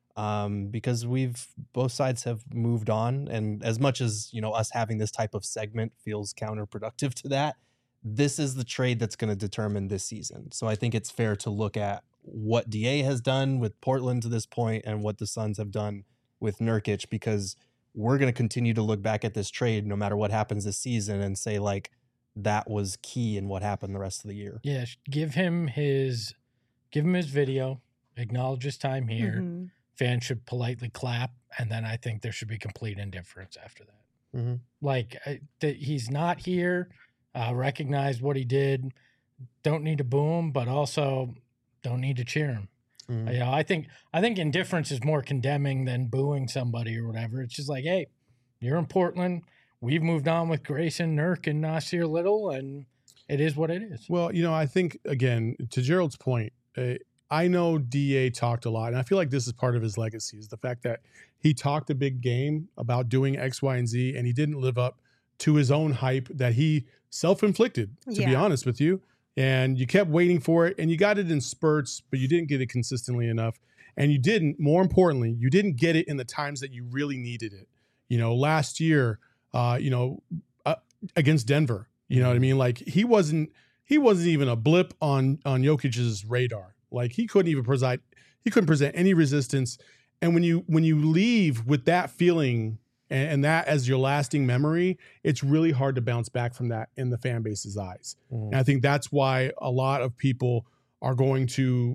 um, because we've both sides have moved on. And as much as, you know, us having this type of segment feels counterproductive to that, this is the trade that's going to determine this season. So I think it's fair to look at what D A has done with Portland to this point and what the Suns have done with Nurkic, because we're going to continue to look back at this trade no matter what happens this season and say, like, that was key in what happened the rest of the year. Yeah, give him his give him his video, acknowledge his time here. Mm-hmm. Fans should politely clap, and then I think there should be complete indifference after that. Mm-hmm. Like, that he's not here, uh, recognize what he did, don't need to boo him, but also don't need to cheer him. Mm-hmm. You know, I think I think indifference is more condemning than booing somebody or whatever. It's just like, hey, you're in Portland. We've moved on with Grayson, Nurk, and Nasir Little, and it is what it is. Well, you know, I think, again, to Gerald's point, uh, I know D A talked a lot, and I feel like this is part of his legacy, is the fact that he talked a big game about doing X, Y, and Z, and he didn't live up to his own hype that he self-inflicted, to Yeah. be honest with you. And you kept waiting for it, and you got it in spurts, but you didn't get it consistently enough. And you didn't, more importantly, you didn't get it in the times that you really needed it. You know, last year, uh, you know, uh, against Denver, you know what I mean? Like, he wasn't, he wasn't even a blip on, on Jokic's radar. Like, he couldn't even preside, he couldn't present any resistance. And when you, when you leave with that feeling and, and that as your lasting memory, it's really hard to bounce back from that in the fan base's eyes. Mm-hmm. And I think that's why a lot of people are going to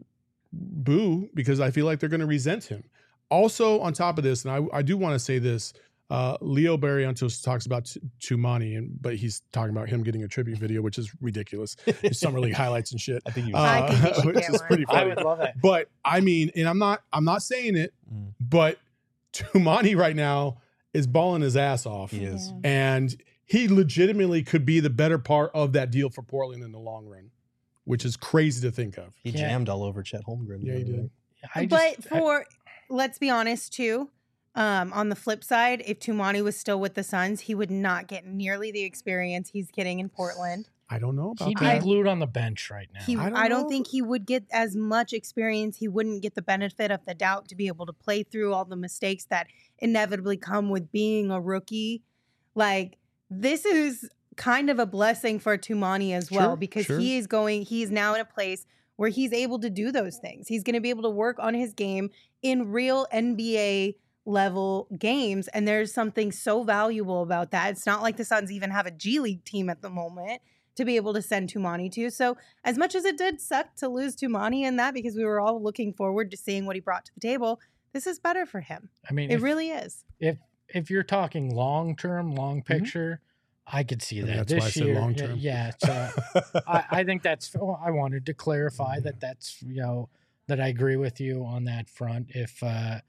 boo, because I feel like they're going to resent him. Also, on top of this, and I, I do want to say this, uh, Leo Barrientos talks about T- Tumani, and but he's talking about him getting a tribute video, which is ridiculous. Summer League highlights and shit. I think you I think he should which get is one. pretty I funny. would love that. But I mean, and I'm not, I'm not saying it, Mm. but Tumani right now is balling his ass off, He is. Yeah. and he legitimately could be the better part of that deal for Portland in the long run, which is crazy to think of. He Yeah. jammed all over Chet Holmgren. Yeah, he the other did. night. I just, but I- for let's be honest too, um, on the flip side, if Tumani was still with the Suns, he would not get nearly the experience he's getting in Portland. I don't know about he'd be that. glued on the bench right now. He, I I don't don't, know. think he would get as much experience. He wouldn't get the benefit of the doubt to be able to play through all the mistakes that inevitably come with being a rookie. Like, this is kind of a blessing for Tumani as well, Sure, because sure. he is going, he's now in a place where he's able to do those things. He's going to be able to work on his game in real N B A level games. And there's something so valuable about that. It's not like the Suns even have a G League team at the moment to be able to send Tumani to. So as much as it did suck to lose Tumani in that, because we were all looking forward to seeing what he brought to the table, this is better for him. I mean, It if, really is. if if you're talking long term, long picture, I could see And that that's why this I said year. long yeah, term. Yeah, so I, I think that's. well, I wanted to clarify that that's you know that I agree with you on that front. If uh,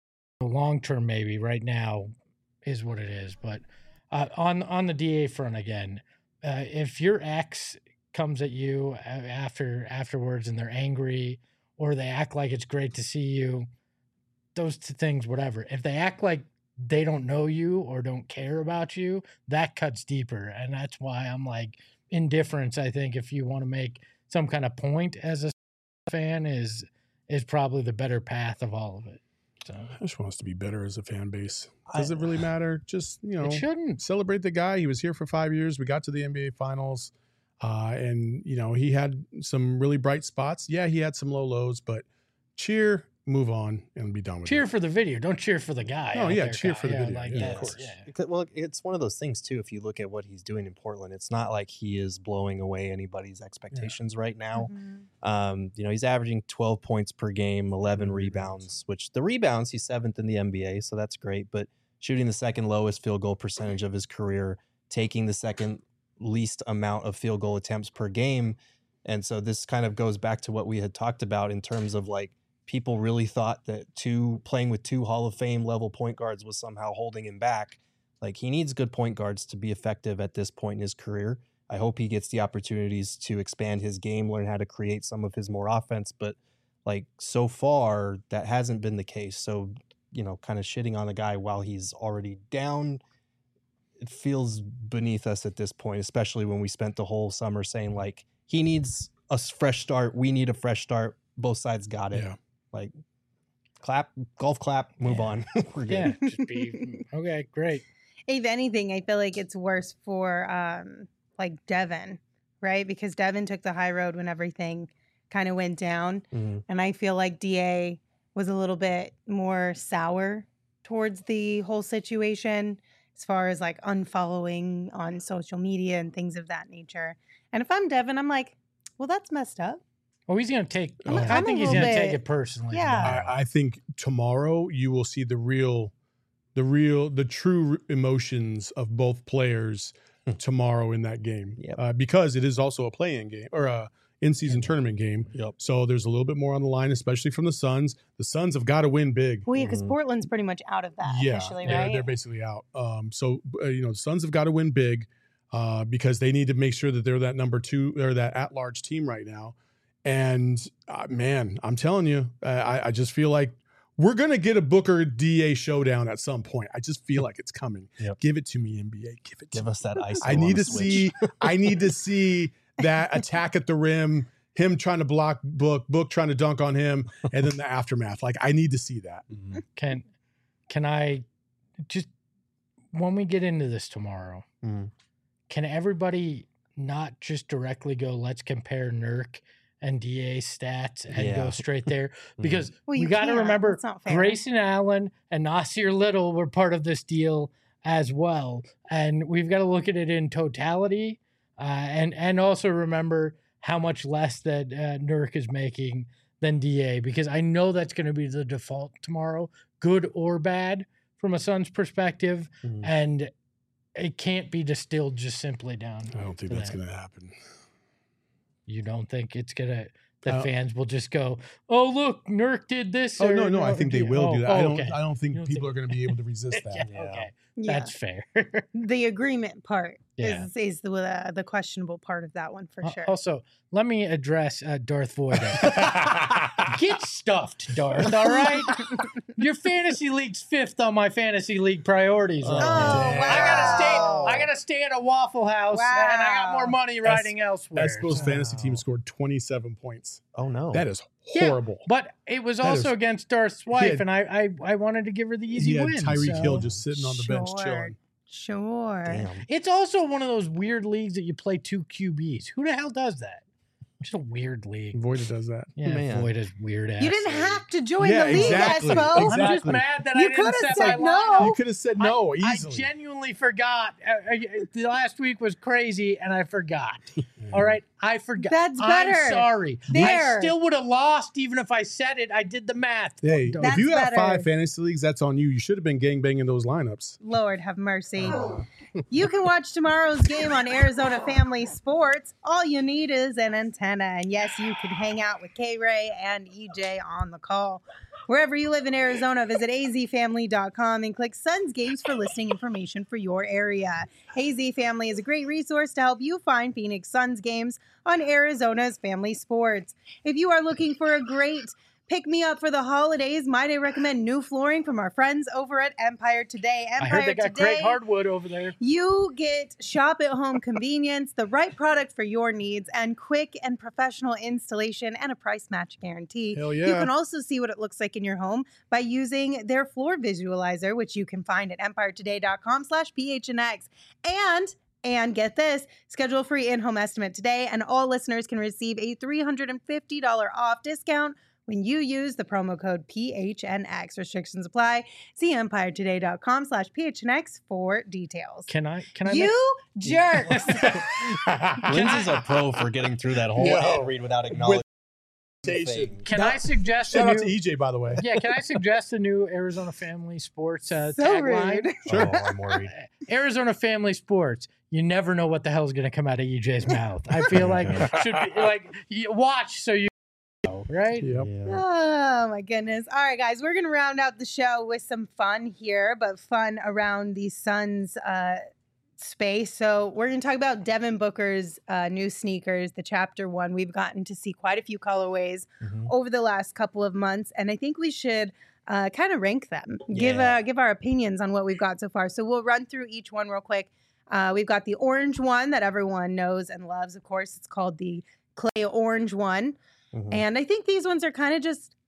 long term, maybe right now is what it is, but uh, on on the D A front again, uh, if your ex comes at you a- after afterwards and they're angry or they act like it's great to see you, those two things, whatever. If they act like they don't know you or don't care about you, that cuts deeper. And that's why I'm like, indifference, I think, if you want to make some kind of point as a fan, is is probably the better path of all of it. So I just want us to be better as a fan base. Does I- it really matter? Just, you know, it shouldn't. celebrate the guy. He was here for five years. We got to the N B A Finals, uh, and you know he had some really bright spots. Yeah, he had some low lows, but cheer, move on, and be done with Cheer it. for the video. Don't cheer for the guy. Oh, out yeah, there, cheer Kyle. for the Yeah, video. Like Yeah, of that's- course. yeah. Because, well, it's one of those things too. If you look at what he's doing in Portland, it's not like he is blowing away anybody's expectations right now. Mhm. Um, you know, he's averaging twelve points per game, eleven Mhm. rebounds, which the rebounds, he's seventh in the N B A, so that's great. But shooting the second lowest field goal percentage of his career, taking the second least amount of field goal attempts per game. And so this kind of goes back to what we had talked about in terms of like people really thought that two playing with two Hall of Fame level point guards was somehow holding him back. Like, he needs good point guards to be effective at this point in his career. I hope he gets the opportunities to expand his game, learn how to create some of his more offense. But like, so far, that hasn't been the case. So, you know, kind of shitting on a guy while he's already down, it feels beneath us at this point, especially when we spent the whole summer saying like, he needs a s- fresh start. We need a fresh start. Both sides got it. Yeah. Like, clap, golf clap, move Yeah. on. We're good. Yeah, just be okay. Great. If anything, I feel like it's worse for um like Devin, right? Because Devin took the high road when everything kind of went down. Mhm. And I feel like D A was a little bit more sour towards the whole situation as far as like unfollowing on social media and things of that nature. And if I'm Devin, I'm like, well, that's messed up. Well, he's gonna take. I'm a- I I'm a think he's little gonna take bit- it personally. Yeah. tomorrow. I, I think tomorrow you will see the real, the real, the true emotions of both players tomorrow in that game. Yep. Uh, because it is also a play-in game or a in-season tournament game. Yep. So there's a little bit more on the line, especially from the Suns. The Suns have got to win big. Well, yeah, because Mhm. Portland's pretty much out of that yeah, officially, they're, right? they're basically out. Um, so uh, you know, the Suns have got to win big uh, because they need to make sure that they're that number two or that at-large team right now. And uh, man, I'm telling you, I, I just feel like we're gonna get a Booker D A showdown at some point. I just feel like it's coming. Yep. Give it to me, N B A. Give it to Give me. us that ice. I need to see. I need to see that attack at the rim. Him trying to block Book, Book trying to dunk on him, and then the aftermath. Like I need to see that. Can can I just when we get into this tomorrow? Mhm. Can everybody not just directly go, let's compare Nurk and D A stats and Yeah. go straight there? Because Well, we you got to can't. remember That's not fair. Grayson Allen and Nasir Little were part of this deal as well. And we've got to look at it in totality uh, and, and also remember how much less that uh, Nurk is making than D A, because I know that's going to be the default tomorrow, good or bad from a Suns perspective. Mhm. And it can't be distilled just simply down. I don't think to that's that. going to happen. You don't think it's gonna the Uh, fans will just go, "Oh, look, Nurk did this." Oh or, no, no, I think they D- will oh, do that. oh, I don't. okay. I don't think You don't people think- are going to be able to resist yeah, that. Yeah. okay, Yeah. that's fair. The agreement part Yeah. is is the uh, the questionable part of that one for Uh, sure. Also, let me address uh, Darth Vader. Get stuffed, Darth. All right, your fantasy league's fifth on my fantasy league priorities. Oh, right Oh, now. wow. I gotta stay. I gotta stay at a Waffle House, and I got Wow. more money riding elsewhere. Espo's fantasy team Wow. scored twenty-seven points. Oh no. That is Yeah, horrible. But it was That also is- against Darth's wife, had- and I, I I wanted to give her the easy He had win. Tyreek so- Hill just sitting on the bench Sure. chilling. Sure. Damn. It's also one of those weird leagues that you play two Q Bs. Who the hell does that? Just a weird league. Voida does that. Yeah, Man. Void is weird ass. You didn't league. have to join Yeah, the league, exactly. Espo. I'm just Exactly. mad that You I didn't coulda set said my no. lineup. You could have said no I easily. genuinely forgot. Uh, uh, the last week was crazy, and I forgot. All right, I forgot. That's I'm better. sorry. I There. still would have lost even if I said it. I did the math. Hey, Don't- if you That's have better. five fantasy leagues, that's on you. You should have been gangbanging those lineups. Lord have mercy. You can watch tomorrow's game on Arizona Family Sports. All you need is an antenna. And yes, you can hang out with K-Ray and E J on the call. Wherever you live in Arizona, visit a z family dot com and click Suns Games for listing information for your area. A Z Family is a great resource to help you find Phoenix Suns games on Arizona's Family Sports. If you are looking for a great pick me up for the holidays, might I recommend new flooring from our friends over at Empire Today. I Empire heard they got Today. great hardwood over there. You get shop at home convenience, the right product for your needs, and quick and professional installation and a price match guarantee. Hell You yeah. can also see what it looks like in your home by using their floor visualizer, which you can find at empire today dot com slash P H N X. And And get this, schedule a free in-home estimate today, and all listeners can receive a three hundred fifty dollars off discount when you use the promo code P H N X. Restrictions apply. See empire today dot com slash P H N X for details. Can I? Can I? You jerks. Lindsay's a pro for getting through that whole Yo. ad read without acknowledging. Station. Can I suggest a Shout out new? to E J, by the way. Yeah, can I suggest a new Arizona Family Sports uh, So tagline? rude. Sure. Oh, I'm worried. Arizona Family Sports. You never know what the hell is going to come out of E J's mouth. I feel like should be like you watch so you know, right? Yep. Yeah. Oh my goodness. All right, guys, we're gonna round out the show with some fun here, but fun around the Suns uh space. So we're gonna talk about Devin Booker's uh new sneakers, the chapter one. We've gotten to see quite a few colorways Mhm. over the last couple of months, and I think we should uh kind of rank them. Give Yeah. uh give our opinions on what we've got so far. So we'll run through each one real quick. Uh we've got the orange one that everyone knows and loves, of course. It's called the clay orange one. Mhm. And I think these ones are kind of just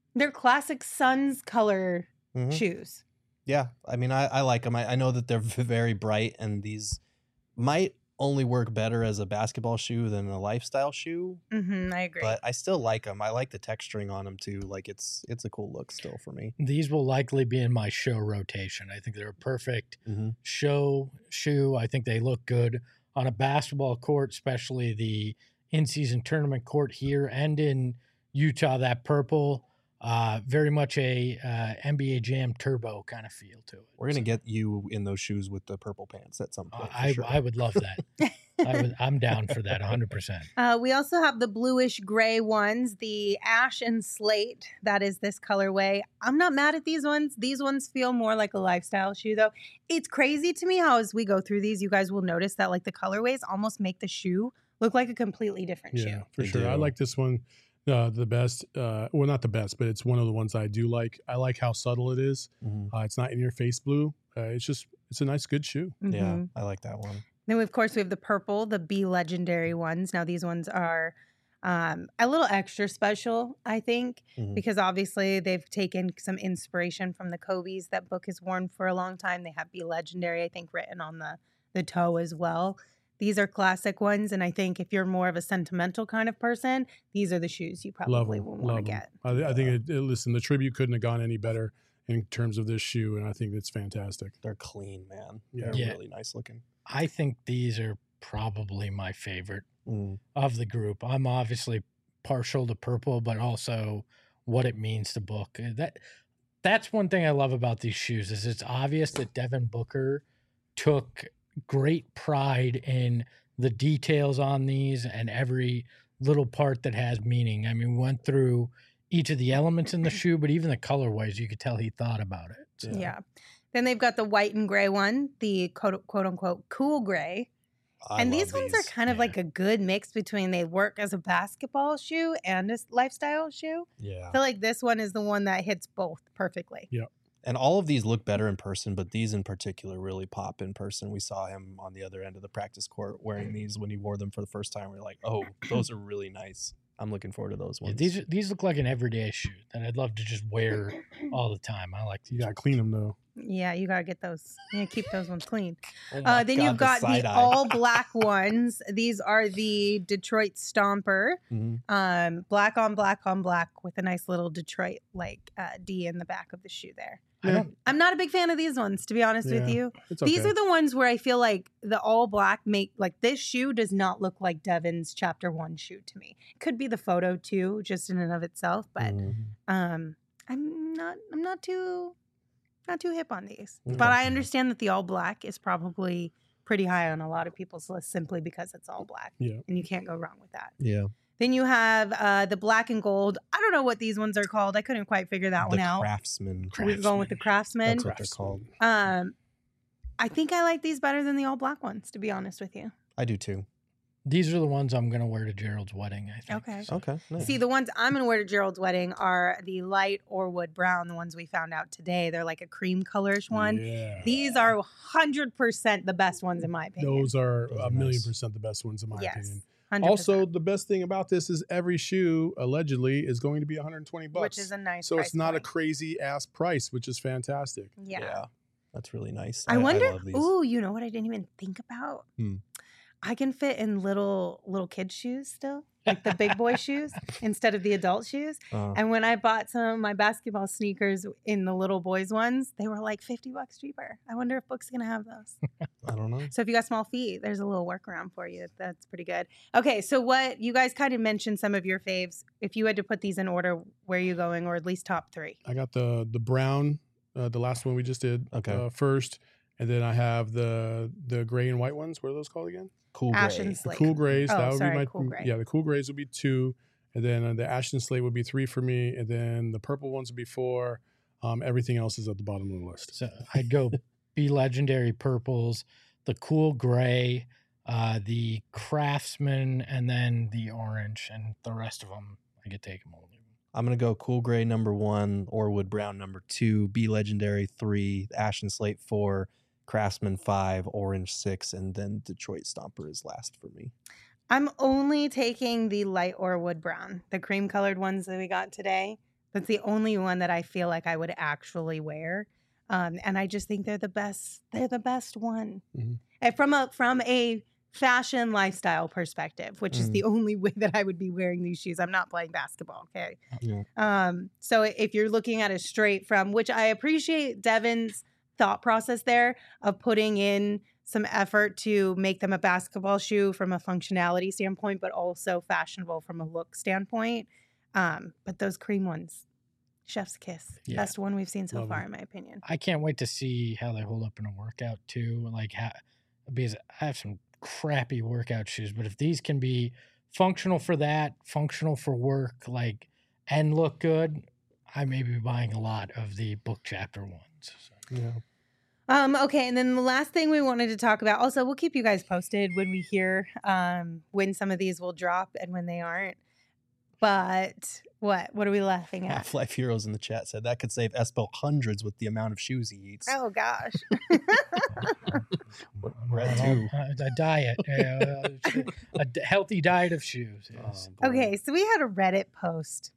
They're classic Suns color Mhm. shoes. Yeah, I mean, I, I like them. I, I know that they're v- very bright, and these might only work better as a basketball shoe than a lifestyle shoe. Mm-hmm, I agree. But I still like them. I like the texturing on them too. Like it's it's a cool look still for me. These will likely be in my show rotation. I think they're a perfect Mhm. show shoe. I think they look good on a basketball court, especially the in-season tournament court here and in Utah. That purple, uh, very much a uh, N B A Jam Turbo kind of feel to it. We're gonna get you in those shoes with the purple pants at some Uh, point. for I sure. I would love that. I would, I'm down for that, one hundred percent. Uh, we also have the bluish gray ones, the ash and slate. That is this colorway. I'm not mad at these ones. These ones feel more like a lifestyle shoe, though. It's crazy to me how, as we go through these, you guys will notice that like the colorways almost make the shoe look like a completely different Yeah, shoe. for They sure. I do. like this one uh, the best. Uh, well, not the best, but it's one of the ones I do like. I like how subtle it is. Mhm. Uh, it's not in your face blue. Uh, it's just it's a nice, good shoe. Yeah, Mhm. I like that one. Then, we, of course, we have the purple, the Be Legendary ones. Now, these ones are um, a little extra special, I think, Mhm. because obviously they've taken some inspiration from the Kobe's that Book has worn for a long time. They have Be Legendary, I think, written on the, the toe as well. These are classic ones, and I think if you're more of a sentimental kind of person, these are the shoes you Love probably them. will want to Love them. get. I, I think it, it- listen, the tribute couldn't have gone any better in terms of this shoe, and I think it's fantastic. They're clean, man. Yeah. They're Yeah. really nice looking. I think these are probably my favorite Mm. of the group. I'm obviously partial to purple, but also what it means to Book. Uh, That that's one thing I love about these shoes is it's obvious that Devin Booker took great pride in the details on these and every little part that has meaning. I mean, we went through each of the elements in the shoe, but even the colorways, you could tell he thought about it. So, Yeah. Then they've got the white and gray one, the quote, quote unquote cool gray. I and love these ones are kind of yeah. like a good mix between they work as a basketball shoe and a s- lifestyle shoe. Yeah. I feel like this one is the one that hits both perfectly. And all of these look better in person, but these in particular really pop in person. We saw him on the other end of the practice court wearing these when he wore them for the first time. We are like, oh, those are really nice. I'm looking forward to those Yeah, ones. these are- these look like an everyday shoe that I'd love to just wear all the time. I like You these. got to clean them though. Yeah, you gotta get those. You gotta keep those ones clean. Oh my Uh, then God, you've got the, side-eye. all black ones. These are the Detroit Stomper, Mhm. um, black on black on black with a nice little Detroit like uh, D in the back of the shoe there. I don't, I'm not a big fan of these ones, to be honest with Yeah. you. It's okay. These are the ones where I feel like the all black make like this shoe does not look like Devin's chapter one shoe to me. Could be the photo too, just in and of itself, but Mhm. um, I'm not I'm not too not too hip on these. Okay. But I understand that the all black is probably pretty high on a lot of people's list simply because it's all black. Yeah. And you can't go wrong with that. Yeah. Then you have uh, the black and gold. I don't know what these ones are called. I couldn't quite figure that The one out. Craftsman. We're going with the Craftsman. That's what they're called. Um, I think I like these better than the all black ones, to be honest with you. I do too. these are the ones I'm going to wear to Gerald's wedding, I think. Okay. Okay. Nice. See, the ones I'm going to wear to Gerald's wedding are the light or wood brown, the ones we found out today. They're like a cream colorish one. Yeah. These are one hundred percent the best ones, in my opinion. Those are Those a are million nice. percent the best ones in my Yes. opinion. one hundred percent. Also, the best thing about this is every shoe allegedly is going to be one hundred twenty bucks. which is a nice so price it's not a point. crazy ass price, which is fantastic. Yeah. That's really nice. I wonder. love these. Ooh, you know what I didn't even think about? Hmm. I can fit in little little kid shoes still, like the big boy shoes instead of the adult shoes. Uh, And when I bought some of my basketball sneakers in the little boys ones, they were like fifty bucks cheaper. I wonder if Book's gonna have those. I don't know. So if you got small feet, there's a little workaround for you. That's pretty good. Okay, so what you guys kind of mentioned some of your faves. If you had to put these in order, where are you going, or at least top three? I got the the brown, uh, the last one we just did Okay. uh, first, and then I have the the gray and white ones. What are those called again? Cool Ash gray. and The slate. cool grays. Oh, that would sorry, be my cool gray. yeah. The cool grays would be two, and then uh, the ash and slate would be three for me, and then the purple ones would be four. Um, everything else is at the bottom of the list. So I'd go Be Legendary purples, the cool gray, uh, the Craftsman, and then the orange, and the rest of them I could take them all. I'm gonna go cool gray number one, Orwood brown number two, Be Legendary three, Ash and Slate four, Craftsman five, Orange six, and then Detroit Stomper is last for me. I'm only taking the light or wood brown, the cream colored ones that we got today. That's the only one that I feel like I would actually wear. Um, and I just think they're the best. They're the best one. Mm-hmm. And from a from a fashion lifestyle perspective, which mm. is the only way that I would be wearing these shoes. I'm not playing basketball, okay? Yeah. Um, so if you're looking at it straight from, which I appreciate Devin's thought process there of putting in some effort to make them a basketball shoe from a functionality standpoint, but also fashionable from a look standpoint. Um, but those cream ones, chef's kiss, yeah. best one we've seen so Love far, it. in my opinion. I can't wait to see how they hold up in a workout too. Like, how, because I have some crappy workout shoes, but if these can be functional for that, functional for work, like, and look good, I may be buying a lot of the book chapter ones. So. Yeah. Um, okay, and then the last thing we wanted to talk about, also, we'll keep you guys posted when we hear um, when some of these will drop and when they aren't. But what? What are we laughing at? Half-Life Heroes in the chat said that could save Espo hundreds with the amount of shoes he eats. Oh, gosh. We're at two. A diet. Uh, a d- healthy diet of shoes. Yes. Oh, okay, so we had a Reddit post.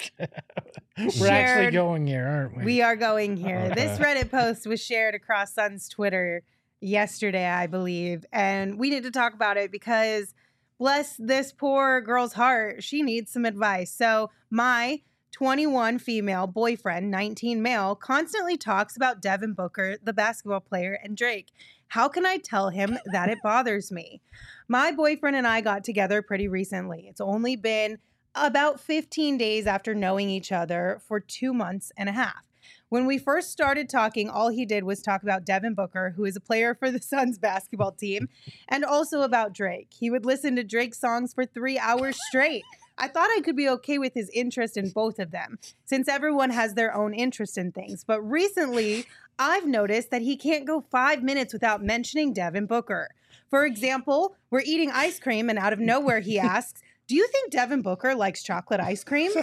We're shared, actually going here, aren't we? We are going here. This Reddit post was shared across Sun's Twitter yesterday, I believe. And we need to talk about it because bless this poor girl's heart, she needs some advice. So my twenty-one female boyfriend, nineteen male, constantly talks about Devin Booker, the basketball player, and Drake. How can I tell him that it bothers me? My boyfriend and I got together pretty recently. It's only been about fifteen days after knowing each other for two months and a half. When we first started talking, all he did was talk about Devin Booker, who is a player for the Suns basketball team, and also about Drake. He would listen to Drake's songs for three hours straight. I thought I could be okay with his interest in both of them, since everyone has their own interest in things. But recently, I've noticed that he can't go five minutes without mentioning Devin Booker. For example, we're eating ice cream, and out of nowhere, he asks, do you think Devin Booker likes chocolate ice cream?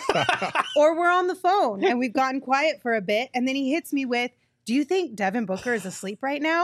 Or we're on the phone and we've gotten quiet for a bit. And then he hits me with, do you think Devin Booker is asleep right now?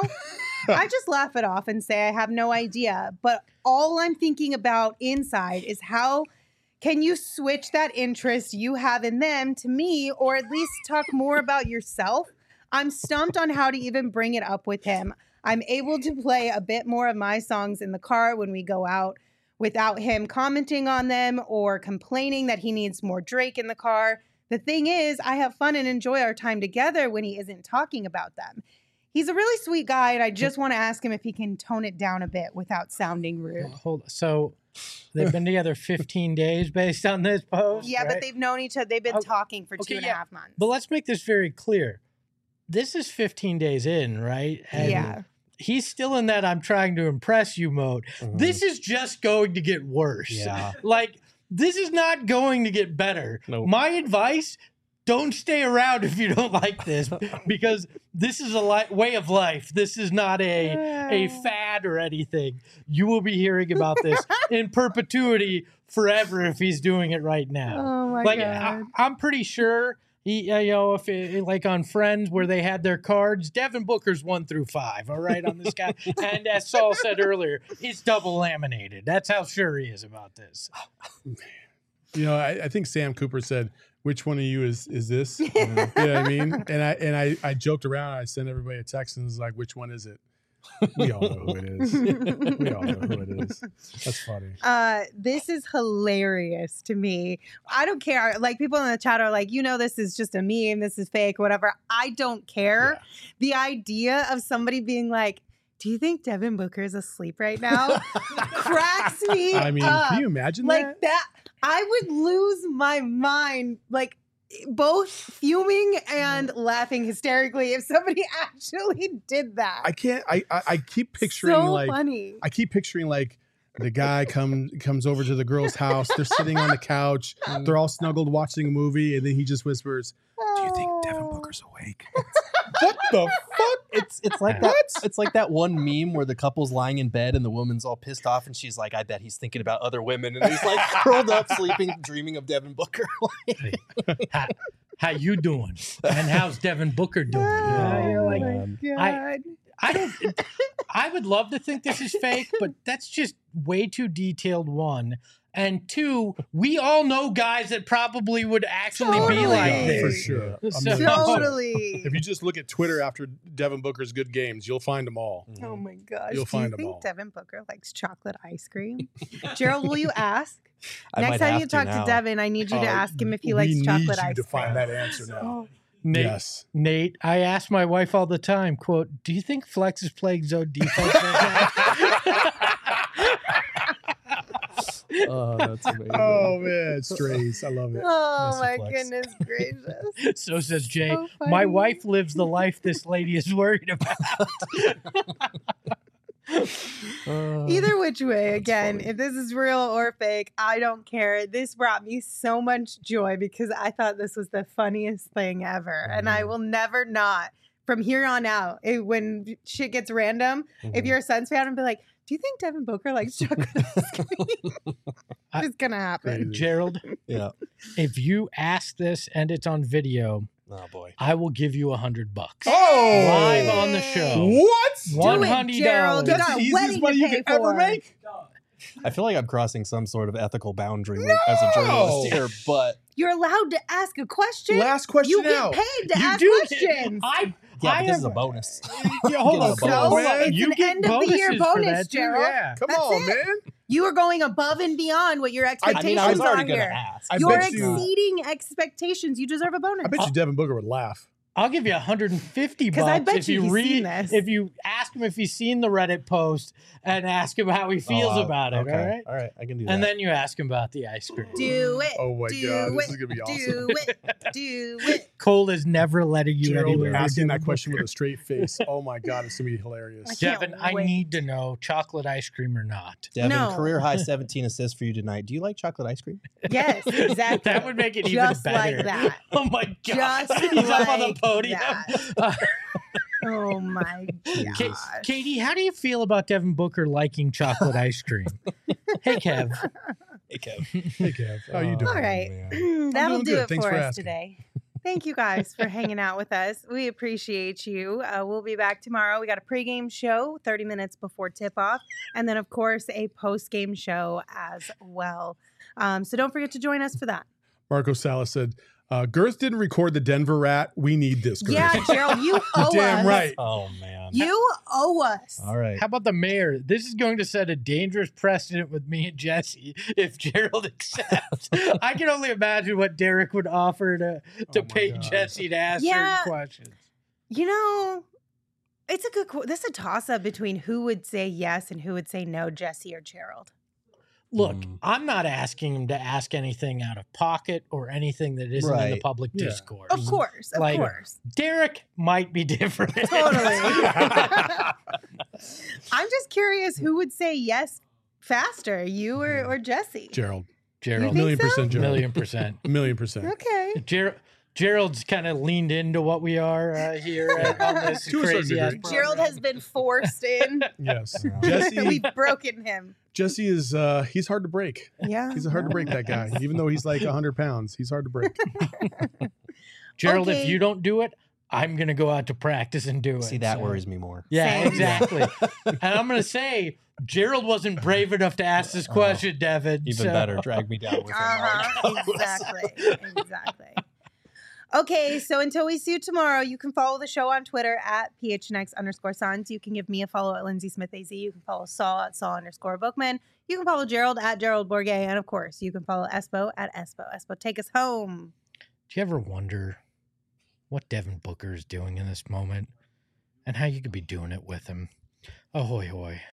I just laugh it off and say I have no idea. But all I'm thinking about inside is how can you switch that interest you have in them to me, or at least talk more about yourself? I'm stumped on how to even bring it up with him. I'm able to play a bit more of my songs in the car when we go out, without him commenting on them or complaining that he needs more Drake in the car. The thing is, I have fun and enjoy our time together when he isn't talking about them. He's a really sweet guy, and I just want to ask him if he can tone it down a bit without sounding rude. Hold on. So they've been together fifteen days based on this post? Yeah, right? But they've known each other. They've been okay. talking for okay, two and yeah. a half months. But let's make this very clear. This is fifteen days in, right? And yeah. He's still in that I'm trying to impress you mode. Mm-hmm. This is just going to get worse. Yeah. Like, this is not going to get better. Nope. My advice, don't stay around if you don't like this, because this is a li- way of life. This is not a, a fad or anything. You will be hearing about this in perpetuity forever if he's doing it right now. Oh, my like, God. I, I'm pretty sure... He, uh, you know, if it, like on Friends where they had their cards, Devin Booker's one through five, all right, on this guy. And as Saul said earlier, it's double laminated. That's how sure he is about this. You know, I, I think Sam Cooper said, "Which one of you is is this?" You know what I mean? And I and I, I joked around. I sent everybody a text and was like, "Which one is it?" We all know who it is. We all know who it is. That's funny. Uh, this is hilarious to me. I don't care. Like, people in the chat are like, you know, this is just a meme. This is fake, whatever. I don't care. Yeah. The idea of somebody being like, do you think Devin Booker is asleep right now? cracks me I mean, up. Can you imagine like that? that? I would lose my mind. Like, both fuming and laughing hysterically if somebody actually did that. I can't. I I, I keep picturing so like funny. I keep picturing like the guy comes comes over to the girl's house. They're sitting on the couch. They're all snuggled watching a movie, and then he just whispers, "Do you think Devin Booker's awake?" What the fuck? It's it's like that. It's like that one meme where the couple's lying in bed and the woman's all pissed off, and she's like, "I bet he's thinking about other women," and he's like curled up, sleeping, dreaming of Devin Booker. how, how you doing? And how's Devin Booker doing? Oh, you know, like, my God. I, I don't. I would love to think this is fake, but that's just way too detailed. One, And two, we all know guys that probably would actually be like Totally. this. For sure. A So- million percent. Totally. If you just look at Twitter after Devin Booker's good games, you'll find them all. Oh my gosh. You'll Do find you 'em think all. Devin Booker likes chocolate ice cream? Gerald, will you ask? I Next might time have you talk now. to Devin, I need you to Uh, ask him if he we likes need chocolate you ice to cream. find that answer now. Nate, Yes. Nate, I ask my wife all the time, quote, do you think Flex is playing zone defense right now? Oh, that's amazing. Oh man, strays. I love it. Oh Miss you, my Flex. goodness gracious. So says Jay. So My funny. wife lives the life this lady is worried about. Uh, Either which way, again, funny. if this is real or fake, I don't care. This brought me so much joy because I thought this was the funniest thing ever. And I Mhm. will never not, from here on out, it, when shit gets random, if Mhm. you're a Suns fan, I'll be like, do you think Devin Booker likes chocolate ice cream? I- It's going to happen. Crazy. Gerald, Yeah. if you ask this and it's on video, Oh boy. I will give you a hundred bucks. Oh! Live on the show. What? One Do it, hundred Gerald. You dollars. That's got the a easiest wedding money to you pay could ever for. make. I feel like I'm crossing some sort of ethical boundary as a journalist No. here, but You're allowed to ask a question. Last question you get out. paid to You ask do get- questions. I, yeah, I but this is a have- bonus. Yeah, hold Getting on. a So, bonus. hold on. It's you an get end of the year bonuses for bonus, that, too, Gerald. Yeah. Come That's on, it. man. You are going above and beyond what your I expectations mean, I was already are going to here. ask. I You're bet you- exceeding expectations. You deserve a bonus. I bet you Devin Booker would laugh. I'll give you one hundred fifty 'Cause bucks I bet if you you he's read seen this. if you ask him if he's seen the Reddit post and ask him how he feels Oh, about it. okay. All right. All right. I can do And that. then you ask him about the ice cream. Do it. Oh my do God, it, this is gonna be awesome. Do it. Do it. Cole is never letting you Gerald anywhere. asking near that question Booker. with a straight face. Oh my God, it's gonna be I hilarious. can't Devin, I wait. need to know chocolate ice cream or not. Devin, No. career high seventeen assists for you tonight. Do you like chocolate ice cream? Yes, exactly. That would make it Just even better. like that. Oh my god. Just He's up on the like podium. that. Oh my Ka- gosh. Katie, how do you feel about Devin Booker liking chocolate ice cream? Hey Kev. Hey, Kev. Hey, Kev, how you Oh, doing? All right. man. That'll doing do good. it Thanks for for us asking. today. Thank you guys for hanging out with us. We appreciate you. Uh, we'll be back tomorrow. We got a pregame show thirty minutes before tip off, and then, of course, a postgame show as well. Um, so don't forget to join us for that. Marco Salas said, uh, Girth didn't record the Denver rat. We need this, Girth. Yeah, Gerald, you owe Damn us. right. Oh man. You owe us. All right. How about the mayor? This is going to set a dangerous precedent with me and Jesse if Gerald accepts. I can only imagine what Derek would offer to, to Oh my pay God. Jesse to ask Yeah. certain questions. You know, it's a good. qu- This is a toss up between who would say yes and who would say no, Jesse or Gerald. Look, Mm. I'm not asking him to ask anything out of pocket or anything that isn't in the Right. public Yeah. discourse. Of course, of Like- course. Derek might be different. Totally. I'm just curious who would say yes faster, you or, or Jesse? Gerald. You A Gerald, think million so? percent Gerald. million percent. A million percent. Okay. Ger- Gerald's kind of leaned into what we are uh, here at, on this To a certain crazy ass degree. Gerald has been forced in. Yes. Jesse We've broken him. Jesse is uh he's hard to break. Yeah. He's hard to break, that guy. Even though he's like one hundred pounds, he's hard to break. Gerald, Okay. if you don't do it, I'm going to go out to practice and do it. See, that So- worries me more. Yeah, Same. exactly. And I'm going to say, Gerald wasn't brave enough to ask this Oh, question, Devin. Even so- better, drag me down with him. Uh-huh. Mark. Exactly. Exactly. Okay, so until we see you tomorrow, you can follow the show on Twitter at P H N X underscore Sons. You can give me a follow at Lindsay Smith A Z. You can follow Saul at Saul underscore Bookman. You can follow Gerald at Gerald Bourget. And of course, you can follow Espo at Espo. Espo, take us home. Do you ever wonder what Devin Booker is doing in this moment and how you could be doing it with him? Ahoy, hoy.